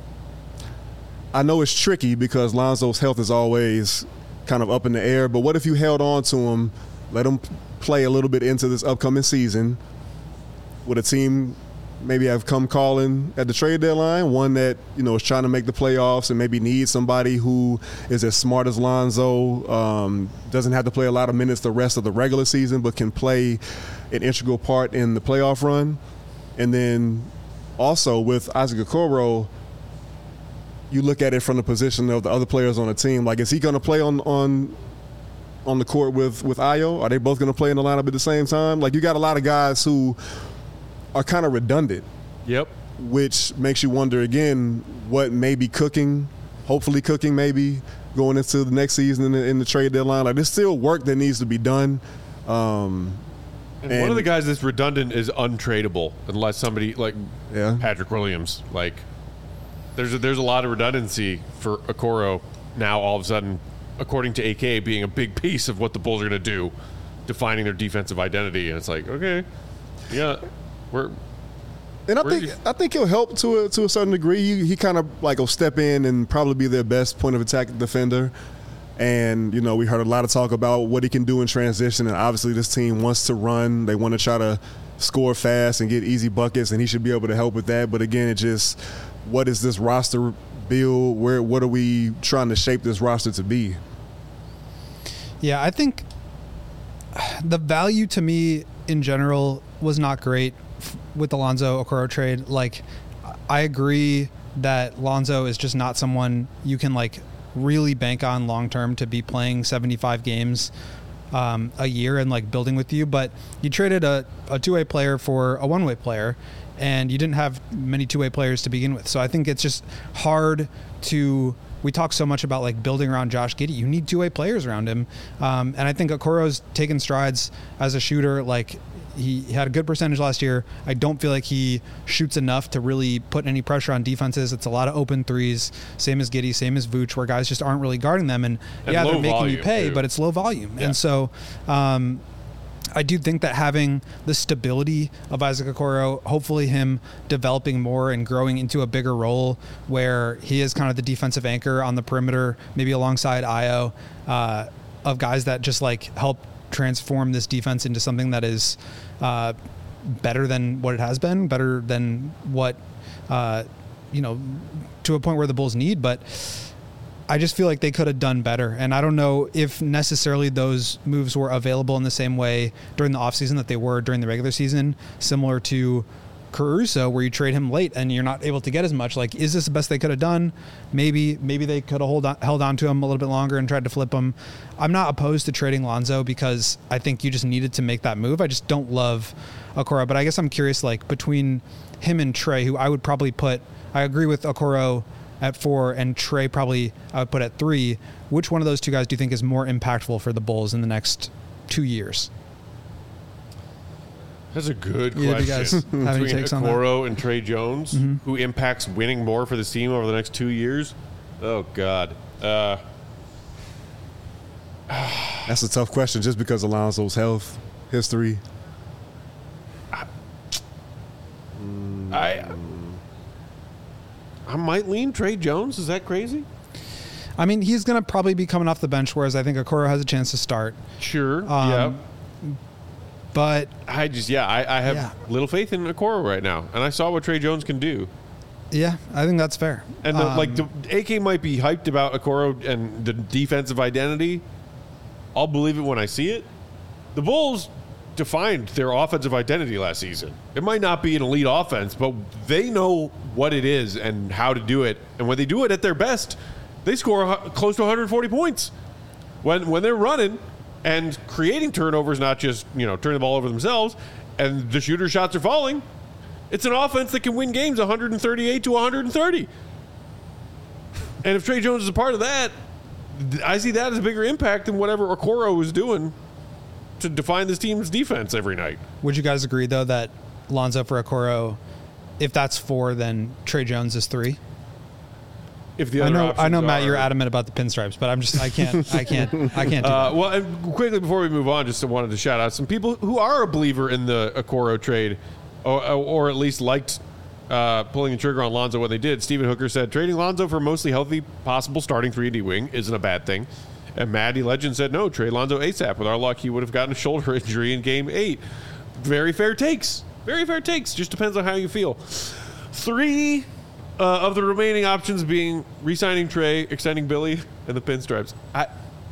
I know it's tricky because Lonzo's health is always kind of up in the air. But what if you held on to him, let him play a little bit into this upcoming season? Would a team maybe have come calling at the trade deadline, one that, you know, is trying to make the playoffs and maybe needs somebody who is as smart as Lonzo, um, doesn't have to play a lot of minutes the rest of the regular season, but can play an integral part in the playoff run? And then also with Isaac Okoro, you look at it from the position of the other players on the team. Like, is he going to play on on on the court with, with Ayo? Are they both going to play in the lineup at the same time? Like, you got a lot of guys who are kind of redundant. Yep. Which makes you wonder, again, what may be cooking, hopefully cooking maybe, going into the next season in the, in the trade deadline. Like, there's still work that needs to be done. Um, and, and one of the guys that's redundant is untradeable unless somebody like yeah. Patrick Williams. Like, there's a, there's a lot of redundancy for Okoro now all of a sudden, according to A K, being a big piece of what the Bulls are going to do, defining their defensive identity. And it's like, okay, yeah, we're And I Where think you- I think he'll help to a, to a certain degree. He, he kind of like will step in and probably be their best point of attack defender. And, you know, we heard a lot of talk about what he can do in transition. And obviously this team wants to run. They want to try to score fast and get easy buckets, and he should be able to help with that. But again, it just, what is this roster build? Where what are we trying to shape this roster to be? Yeah, I think the value to me in general was not great f- with the Lonzo Okoro trade. Like, I agree that Lonzo is just not someone you can like really bank on long term to be playing seventy-five games um, a year and like building with you. But you traded a, a two-way player for a one-way player, and you didn't have many two-way players to begin with. So I think it's just hard to. We talk so much about like building around Josh Giddey. You need two-way players around him, um, and I think Okoro's taken strides as a shooter. Like, he had a good percentage last year. I don't feel like he shoots enough to really put any pressure on defenses. It's a lot of open threes, same as Giddey, same as Vooch, where guys just aren't really guarding them. And, And yeah, low they're making volume, you pay, too. but it's low volume. Yeah. And so um, I do think that having the stability of Isaac Okoro, hopefully him developing more and growing into a bigger role where he is kind of the defensive anchor on the perimeter, maybe alongside Ayo, uh, of guys that just like help transform this defense into something that is uh, better than what it has been, better than what, uh, you know, to a point where the Bulls need. But I just feel like they could have done better. And I don't know if necessarily those moves were available in the same way during the offseason that they were during the regular season, similar to Caruso, where you trade him late and you're not able to get as much. Like, is this the best they could have done? Maybe, maybe they could have hold on, held on to him a little bit longer and tried to flip him. I'm not opposed to trading Lonzo because I think you just needed to make that move. I just don't love Okoro, but I guess I'm curious, like, between him and Trey, who I would probably put, I agree with Okoro at four and Trey probably I would put at three. Which one of those two guys do you think is more impactful for the Bulls in the next two years? That's a good Either of you guys question. have any Between takes on that? Okoro and Trey Jones, Mhm. who impacts winning more for this team over the next two years? Oh, God. Uh, That's a tough question just because of Lonzo's health history. I I might lean Trey Jones. Is that crazy? I mean, he's going to probably be coming off the bench, whereas I think Okoro has a chance to start. Sure. Um, yeah. But I just, yeah, I, I have Yeah. little faith in Okoro right now. And I saw what Trey Jones can do. yeah, I think that's fair. And the, Um, like the A K might be hyped about Okoro and the defensive identity. I'll believe it when I see it. The Bulls defined their offensive identity last season. It might not be an elite offense, but they know what it is and how to do it. And when they do it at their best, they score a hu- close to one hundred forty points. When when they're running and creating turnovers, not just, you know, turning the ball over themselves, and the shooter shots are falling, it's an offense that can win games one thirty-eight to one thirty. And if Trey Jones is a part of that, th- I see that as a bigger impact than whatever Okoro was doing to define this team's defense every night. would you guys agree, though, that Lonzo for Okoro if that's four, then Trey Jones is three. If the I other know, I know, options Matt, are- you're adamant about the pinstripes, but I'm just, I can't, I can't, I can't do Uh, that. well, and quickly before we move on, just wanted to shout out some people who are a believer in the Okoro trade, or, or at least liked uh, pulling the trigger on Lonzo when they did. Stephen Hooker said trading Lonzo for mostly healthy, possible starting three and D wing isn't a bad thing. And Maddie Legend said no, trade Lonzo ASAP. With our luck, he would have gotten a shoulder injury in Game Eight. Very fair takes. Very fair takes. Just depends on how you feel. Three. Uh, of the remaining options being re-signing Trey, extending Billy, and the pinstripes. I,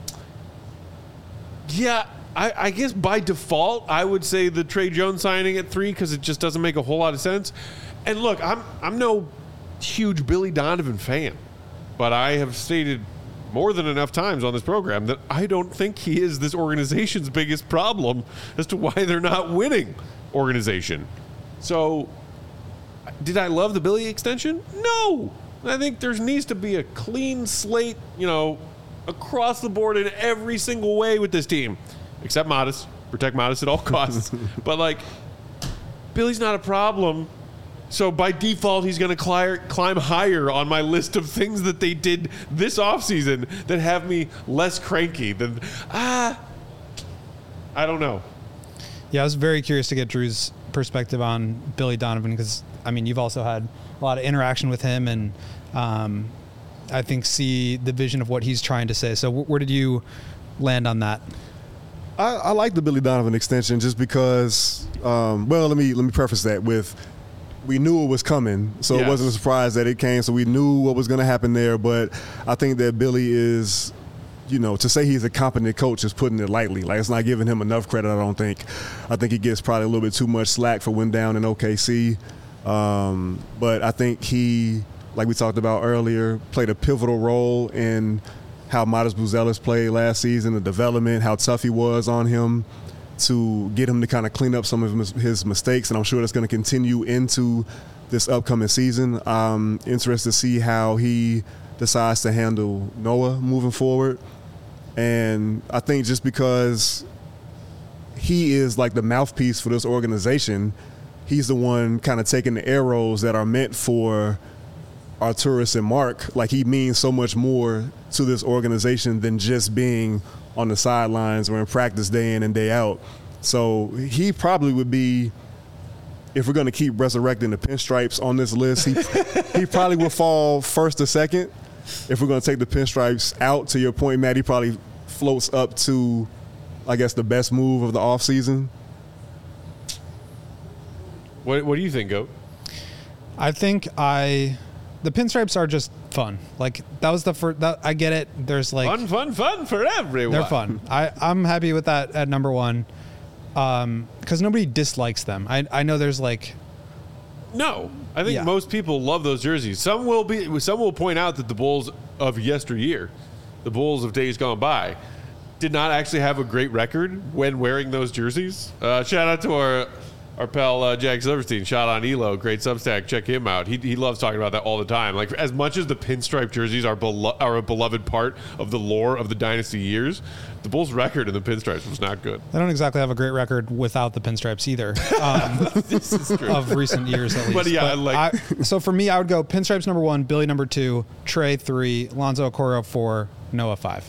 yeah, I, I guess by default, I would say the Trey Jones signing at three because it just doesn't make a whole lot of sense. And look, I'm I'm no huge Billy Donovan fan, but I have stated more than enough times on this program that I don't think he is this organization's biggest problem as to why they're not winning organization. So... did I love the Billy extension? No. I think there needs to be a clean slate, you know, across the board in every single way with this team, except Modest. Protect Modest at all costs. But, like, Billy's not a problem. So, by default, he's going to climb, climb higher on my list of things that they did this offseason that have me less cranky than, ah, I don't know. Yeah, I was very curious to get Drew's perspective on Billy Donovan because, I mean, you've also had a lot of interaction with him and um, I think see the vision of what he's trying to say. So wh- where did you land on that? I, I like the Billy Donovan extension just because, um, well, let me let me preface that with we knew it was coming, so Yes. it wasn't a surprise that it came. So we knew what was going to happen there. But I think that Billy is, you know, to say he's a competent coach is putting it lightly. Like, it's not giving him enough credit, I don't think. I think he gets probably a little bit too much slack for when down in O K C. Um, but I think he, like we talked about earlier, played a pivotal role in how Modest Buzelis played last season, the development, how tough he was on him to get him to kind of clean up some of his, his mistakes. And I'm sure that's going to continue into this upcoming season. I'm interested to see how he decides to handle Noah moving forward. And I think just because he is like the mouthpiece for this organization, he's the one kind of taking the arrows that are meant for Arturas and Mark. Like, he means so much more to this organization than just being on the sidelines or in practice day in and day out. So he probably would be, if we're going to keep resurrecting the pinstripes on this list, he, he probably will fall first or second. If we're going to take the pinstripes out, to your point, Matt, he probably floats up to, I guess, the best move of the offseason. What, what do you think, Goat? I think I, the pinstripes are just fun. Like that was the first, that, I get it. There's like, Fun, fun, fun for everyone. they're fun. I, I'm happy with that at number one. Um, cause nobody dislikes them. I, I know there's like, No, I think Yeah. most people love those jerseys. Some will be. Some will point out that the Bulls of yesteryear, the Bulls of days gone by, did not actually have a great record when wearing those jerseys. Uh, shout out to our our pal uh, Jack Silverstein. Shout out Elo, great Substack. Check him out. He he loves talking about that all the time. Like, as much as the pinstripe jerseys are belo- are a beloved part of the lore of the dynasty years, the Bulls' record in the pinstripes was not good. they don't exactly have a great record without the pinstripes either. Um, This is true. of recent years at least. But yeah, like- I, so for me, I would go pinstripes number one, Billy number two, Trey three, Lonzo Okoro four, Noah five.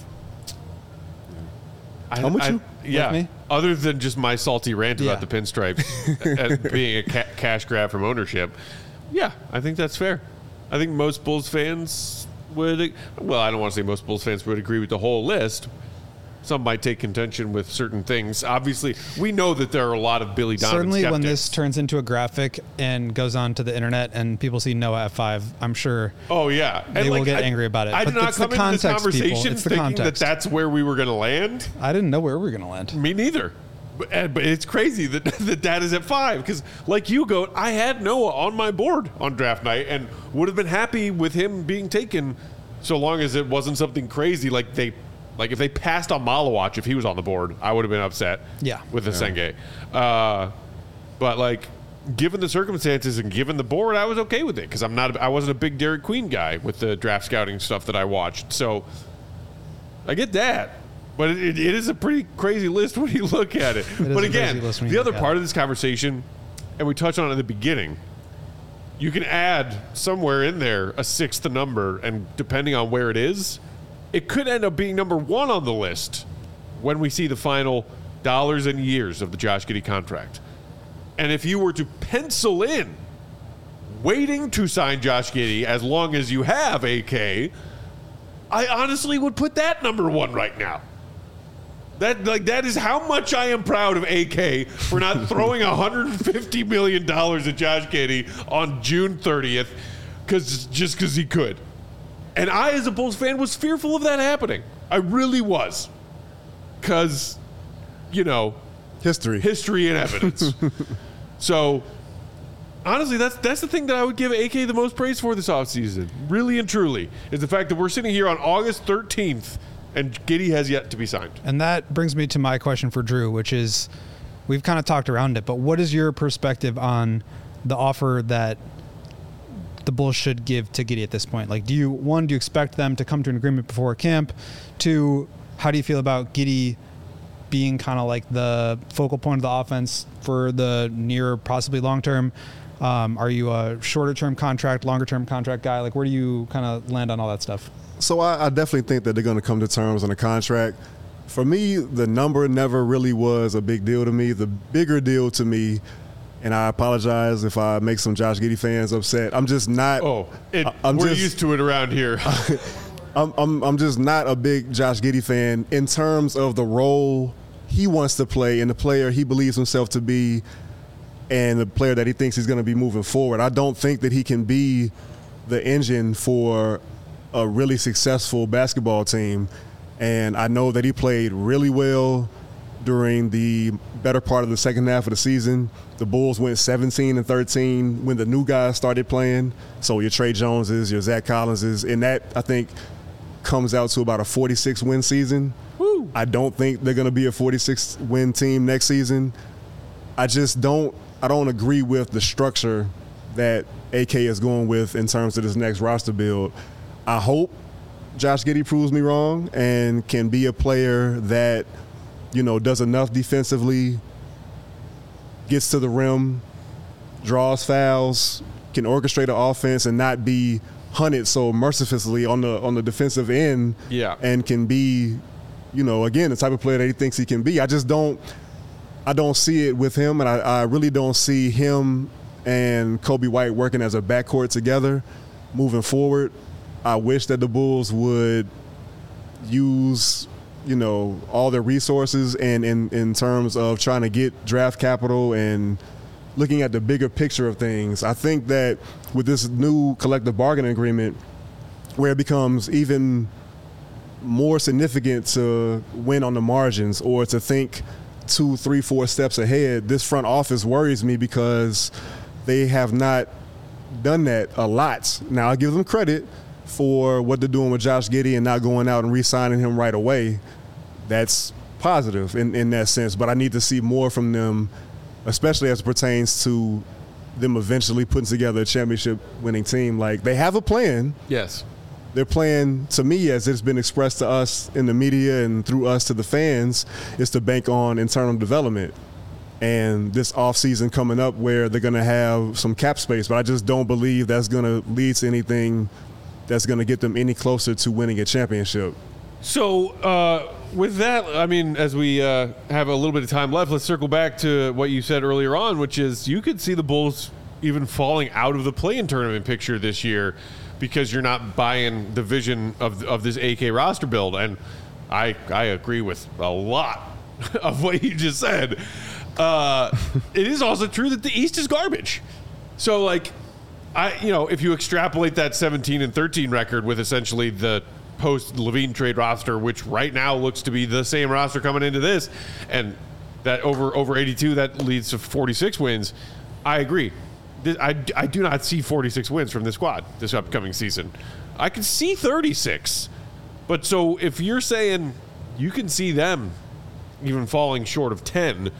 I, I'm with I- you. Yeah. me? Other than just my salty rant Yeah. about the pinstripes and being a ca- cash grab from ownership, yeah, I think that's fair. I think most Bulls fans would. Well, I don't want to say most Bulls fans would agree with the whole list. Some might take contention with certain things. Obviously, we know that there are a lot of Billy Donovan Certainly, when skeptics. this turns into a graphic and goes on to the internet and people see Noah at five, I'm sure. Oh yeah, and They will get I- angry about it. I But did not it's the come into this context, people. conversation It's the thinking that context. that's where we were going to land. I didn't know where we were going to land. Me neither. But, uh, but it's crazy that that dad is at five because, like you, Goat, I had Noah on my board on draft night and would have been happy with him being taken, so long as it wasn't something crazy like they, like if they passed on Malawach if he was on the board, I would have been upset. Yeah. with the Senge. Uh, but like, given the circumstances and given the board, I was okay with it because I'm not. I wasn't a big Derek Queen guy with the draft scouting stuff that I watched. So I get that. But it, it is a pretty crazy list when you look at it. is but a again, crazy list when you the look other at part it. of this conversation, and we touched on it at the beginning, you can add somewhere in there a sixth number, and depending on where it is, it could end up being number one on the list when we see the final dollars and years of the Josh Giddey contract. And if you were to pencil in waiting to sign Josh Giddey as long as you have A K, I honestly would put that number one right now. That like that is how much I am proud of A K for not throwing one hundred fifty million dollars at Josh Giddey on June thirtieth, because just because he could. And I, as a Bulls fan, was fearful of that happening. I really was, because, you know, History. history and evidence. So, honestly, that's that's the thing that I would give A K the most praise for this offseason, really and truly, is the fact that we're sitting here on August thirteenth and Giddey has yet to be signed. And that brings me to my question for Drew, which is, we've kind of talked around it, but what is your perspective on the offer that the Bulls should give to Giddey at this point? Like, do you, one, do you expect them to come to an agreement before camp? Two, how do you feel about Giddey being kind of like the focal point of the offense for the near, possibly long term? Um, are you a shorter term contract, longer term contract guy? Like, where do you kind of land on all that stuff? So I, I definitely think that they're going to come to terms on a contract. For me, the number never really was a big deal to me. The bigger deal to me, and I apologize if I make some Josh Giddey fans upset, I'm just not. Oh, it, I'm we're just, used to it around here. I'm, I'm, I'm just not a big Josh Giddey fan in terms of the role he wants to play and the player he believes himself to be and the player that he thinks he's going to be moving forward. I don't think that he can be the engine for a really successful basketball team. And I know that he played really well during the better part of the second half of the season. The Bulls went seventeen and thirteen when the new guys started playing. So your Trey Joneses, your Zach Collinses, and that, I think, comes out to about a forty-six win season. Woo. I don't think they're going to be a forty-six win team next season. I just don't I don't agree with the structure that A K is going with in terms of this next roster build. I hope Josh Giddey proves me wrong and can be a player that, you know, does enough defensively, gets to the rim, draws fouls, can orchestrate an offense and not be hunted so mercilessly on the on the defensive end. Yeah. And can be, you know, again, the type of player that he thinks he can be. I just don't I don't see it with him, and I, I really don't see him and Kobe White working as a backcourt together moving forward. I wish that the Bulls would use, you know, all their resources and in, in terms of trying to get draft capital and looking at the bigger picture of things. I think that with this new collective bargaining agreement, where it becomes even more significant to win on the margins or to think two, three, four steps ahead, this front office worries me because they have not done that a lot. Now, I give them credit for what they're doing with Josh Giddey and not going out and re-signing him right away. That's positive in, in that sense, but I need to see more from them, especially as it pertains to them eventually putting together a championship-winning team. Like, they have a plan. Yes. Their plan, to me, as it's been expressed to us in the media and through us to the fans, is to bank on internal development. And this offseason coming up where they're going to have some cap space, but I just don't believe that's going to lead to anything that's going to get them any closer to winning a championship. So uh, with that, I mean, as we uh, have a little bit of time left, let's circle back to what you said earlier on, which is you could see the Bulls even falling out of the play-in tournament picture this year because you're not buying the vision of of this A K roster build. And I I agree with a lot of what you just said. Uh, it is also true that the East is garbage. So, like, I you know, if you extrapolate that seventeen and thirteen record with essentially the post-Levine trade roster, which right now looks to be the same roster coming into this, and that over over eighty-two, that leads to forty-six wins, I agree. I, I do not see forty-six wins from this squad this upcoming season. I can see thirty-six. But so if you're saying you can see them even falling short of ten,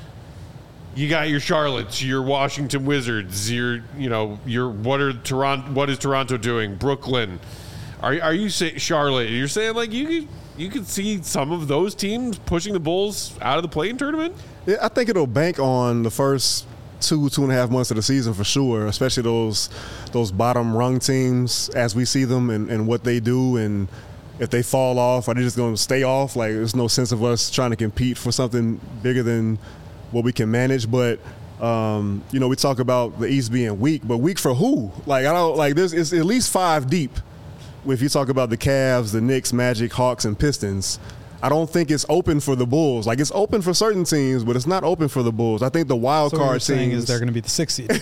you got your Charlottes, your Washington Wizards, your, you know, your what are Toronto, what is Toronto doing? Brooklyn. Are are you saying Charlotte? You're saying like you could, you could see some of those teams pushing the Bulls out of the play-in tournament? Yeah, I think it'll bank on the first two, two and a half months of the season for sure, especially those those bottom rung teams as we see them and, and what they do. And if they fall off, are they just going to stay off? Like, there's no sense of us trying to compete for something bigger than what we can manage. But, um, you know, we talk about the East being weak, but weak for who? Like, I don't, like, there's it's at least five deep. If you talk about the Cavs, the Knicks, Magic, Hawks, and Pistons, I don't think it's open for the Bulls. Like, it's open for certain teams, but it's not open for the Bulls. I think the wild so card what you're saying teams is they're going to be the sixth seed.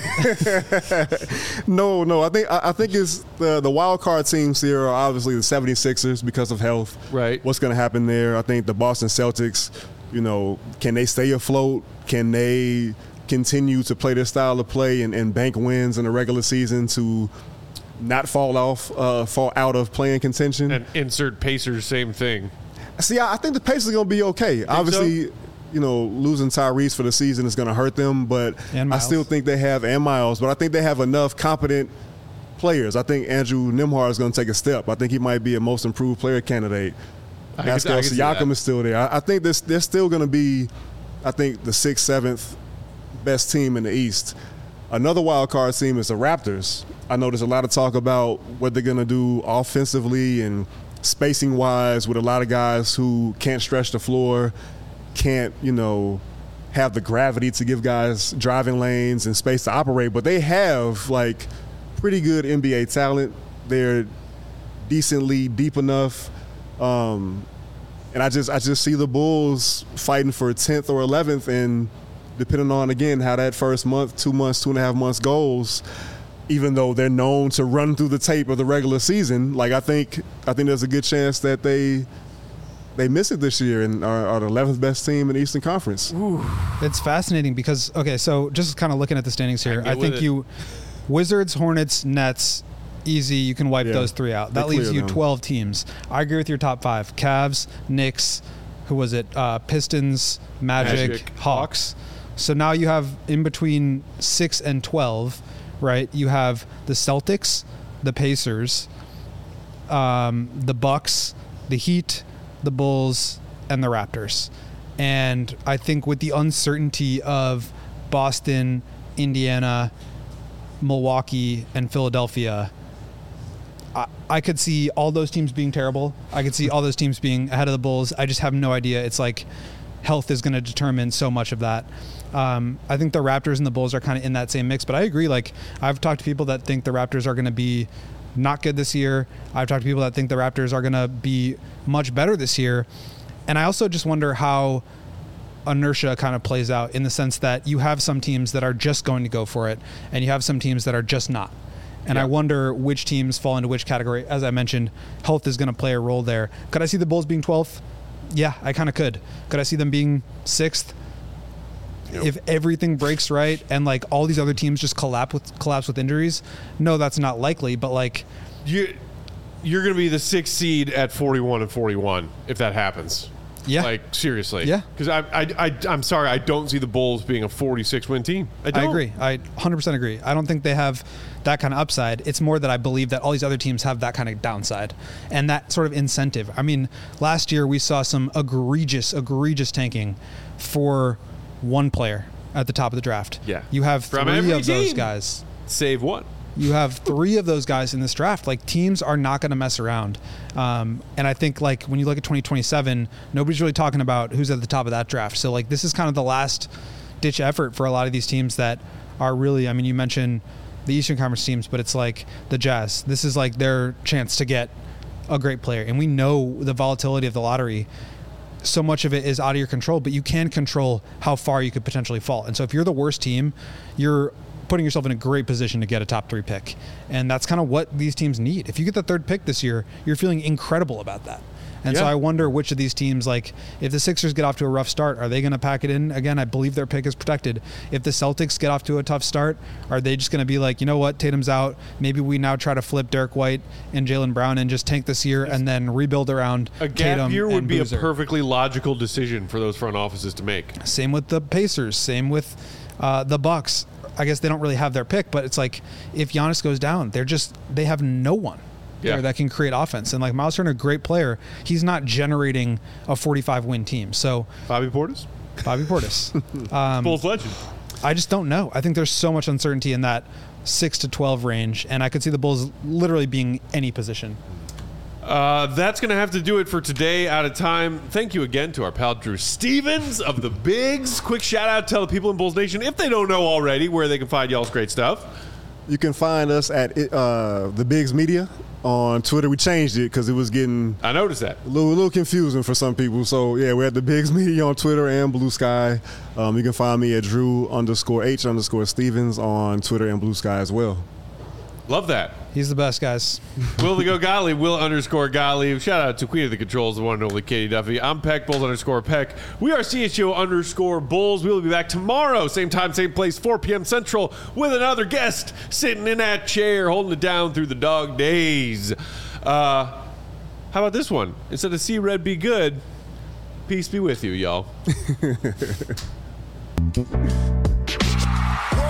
no, no. I think I, I think it's the the wild card teams here are obviously the seventy-sixers because of health. Right. What's going to happen there? I think the Boston Celtics, you know, can they stay afloat? Can they continue to play their style of play and, and bank wins in the regular season to not fall off, uh, fall out of playing contention? And insert Pacers, same thing. See, I think the Pacers are going to be okay. Obviously, so? you know, losing Tyrese for the season is going to hurt them, but I still think they have, and Miles, but I think they have enough competent players. I think Andrew Nembhard is going to take a step. I think he might be a most improved player candidate. I Pascal can, I Siakam is still there. I, I think this, they're still going to be, I think, the sixth, seventh best team in the East. Another wild card team is the Raptors. I know there's a lot of talk about what they're going to do offensively and spacing wise with a lot of guys who can't stretch the floor, can't, you know, have the gravity to give guys driving lanes and space to operate, but they have like pretty good N B A talent. They're decently deep enough. Um, and I just I just see the Bulls fighting for tenth or eleventh, and depending on, again, how that first month, two months, two and a half months goes, even though they're known to run through the tape of the regular season, like I think I think there's a good chance that they they miss it this year and are, are the eleventh best team in the Eastern Conference. Ooh. It's fascinating because, okay, so just kind of looking at the standings here, I think you Wizards, Hornets, Nets, easy, you can wipe Yeah. those three out. That They leaves clear you them. twelve teams. I agree with your top five. Cavs, Knicks, who was it? Uh, Pistons, Magic, Magic, Hawks. So now you have in between six and twelve, right? You have the Celtics, the Pacers, um, the Bucks, the Heat, the Bulls, and the Raptors. And I think with the uncertainty of Boston, Indiana, Milwaukee, and Philadelphia, I, I could see all those teams being terrible. I could see all those teams being ahead of the Bulls. I just have no idea. It's like health is going to determine so much of that. Um, I think the Raptors and the Bulls are kind of in that same mix, but I agree. Like, I've talked to people that think the Raptors are going to be not good this year. I've talked to people that think the Raptors are going to be much better this year. And I also just wonder how inertia kind of plays out in the sense that you have some teams that are just going to go for it and you have some teams that are just not. And Yeah. I wonder which teams fall into which category. As I mentioned, health is going to play a role there. Could I see the Bulls being twelfth? Yeah, I kind of could. Could I see them being sixth? Yep. If everything breaks right and like all these other teams just collapse with collapse with injuries, no, that's not likely. But like, You, you're going to be the sixth seed at forty-one and forty-one if that happens. yeah, Like, seriously. Yeah. Because I, I, I, I'm sorry, I don't see the Bulls being a forty-six win team. I, I don't. agree. I one hundred percent agree. I don't think they have that kind of upside. It's more that I believe that all these other teams have that kind of downside and that sort of incentive. I mean, last year we saw some egregious, egregious tanking for one player at the top of the draft. Yeah. You have From three every of those team. guys. Save one. You have three of those guys in this draft. Like, teams are not going to mess around. Um, and I think, like, when you look at twenty twenty-seven, nobody's really talking about who's at the top of that draft. So, like, this is kind of the last ditch effort for a lot of these teams that are really, I mean, you mentioned the Eastern Conference teams, but it's like the Jazz. This is like their chance to get a great player. And we know the volatility of the lottery. So much of it is out of your control, but you can control how far you could potentially fall. And so if you're the worst team, you're putting yourself in a great position to get a top three pick. And that's kind of what these teams need. If you get the third pick this year, you're feeling incredible about that. And so Yeah. I wonder which of these teams, like, if the Sixers get off to a rough start, are they going to pack it in? Again, I believe their pick is protected. If the Celtics get off to a tough start, are they just going to be like, you know what, Tatum's out. Maybe we now try to flip Derek White and Jaylen Brown and just tank this year and then rebuild around A gap Tatum year would and be Boozer. a perfectly logical decision for those front offices to make. Same with the Pacers. Same with uh, the Bucks. I guess they don't really have their pick, but it's like if Giannis goes down, they're just they have no one Yeah. there that can create offense. And like Miles Turner, great player, he's not generating a forty-five win team. So Bobby Portis? Bobby Portis, um, Bulls legend. I just don't know. I think there's so much uncertainty in that six to twelve range, and I could see the Bulls literally being any position. Uh, that's going to have to do it for today. Out of time. Thank you again to our pal Drew Stevens of the Bigs. Quick shout out. Tell the people in Bulls Nation, if they don't know already, where they can find y'all's great stuff. You can find us at uh, the Bigs Media on Twitter. We changed it because it was getting I noticed that. a little, a little confusing for some people. So yeah, we're at the Bigs Media on Twitter and Blue Sky. Um, you can find me at Drew underscore H underscore Stevens on Twitter and Blue Sky as well. Love that. He's the best, guys. Will the Go Gottlieb, Will underscore Gottlieb. Shout out to Queen of the Controls, the one and only Katie Duffy. I'm Peck, Bulls underscore Peck. We are C H O underscore Bulls. We will be back tomorrow, same time, same place, four p.m. Central, with another guest sitting in that chair, holding it down through the dog days. Uh, how about this one? Instead of see red, be good. Peace be with you, y'all.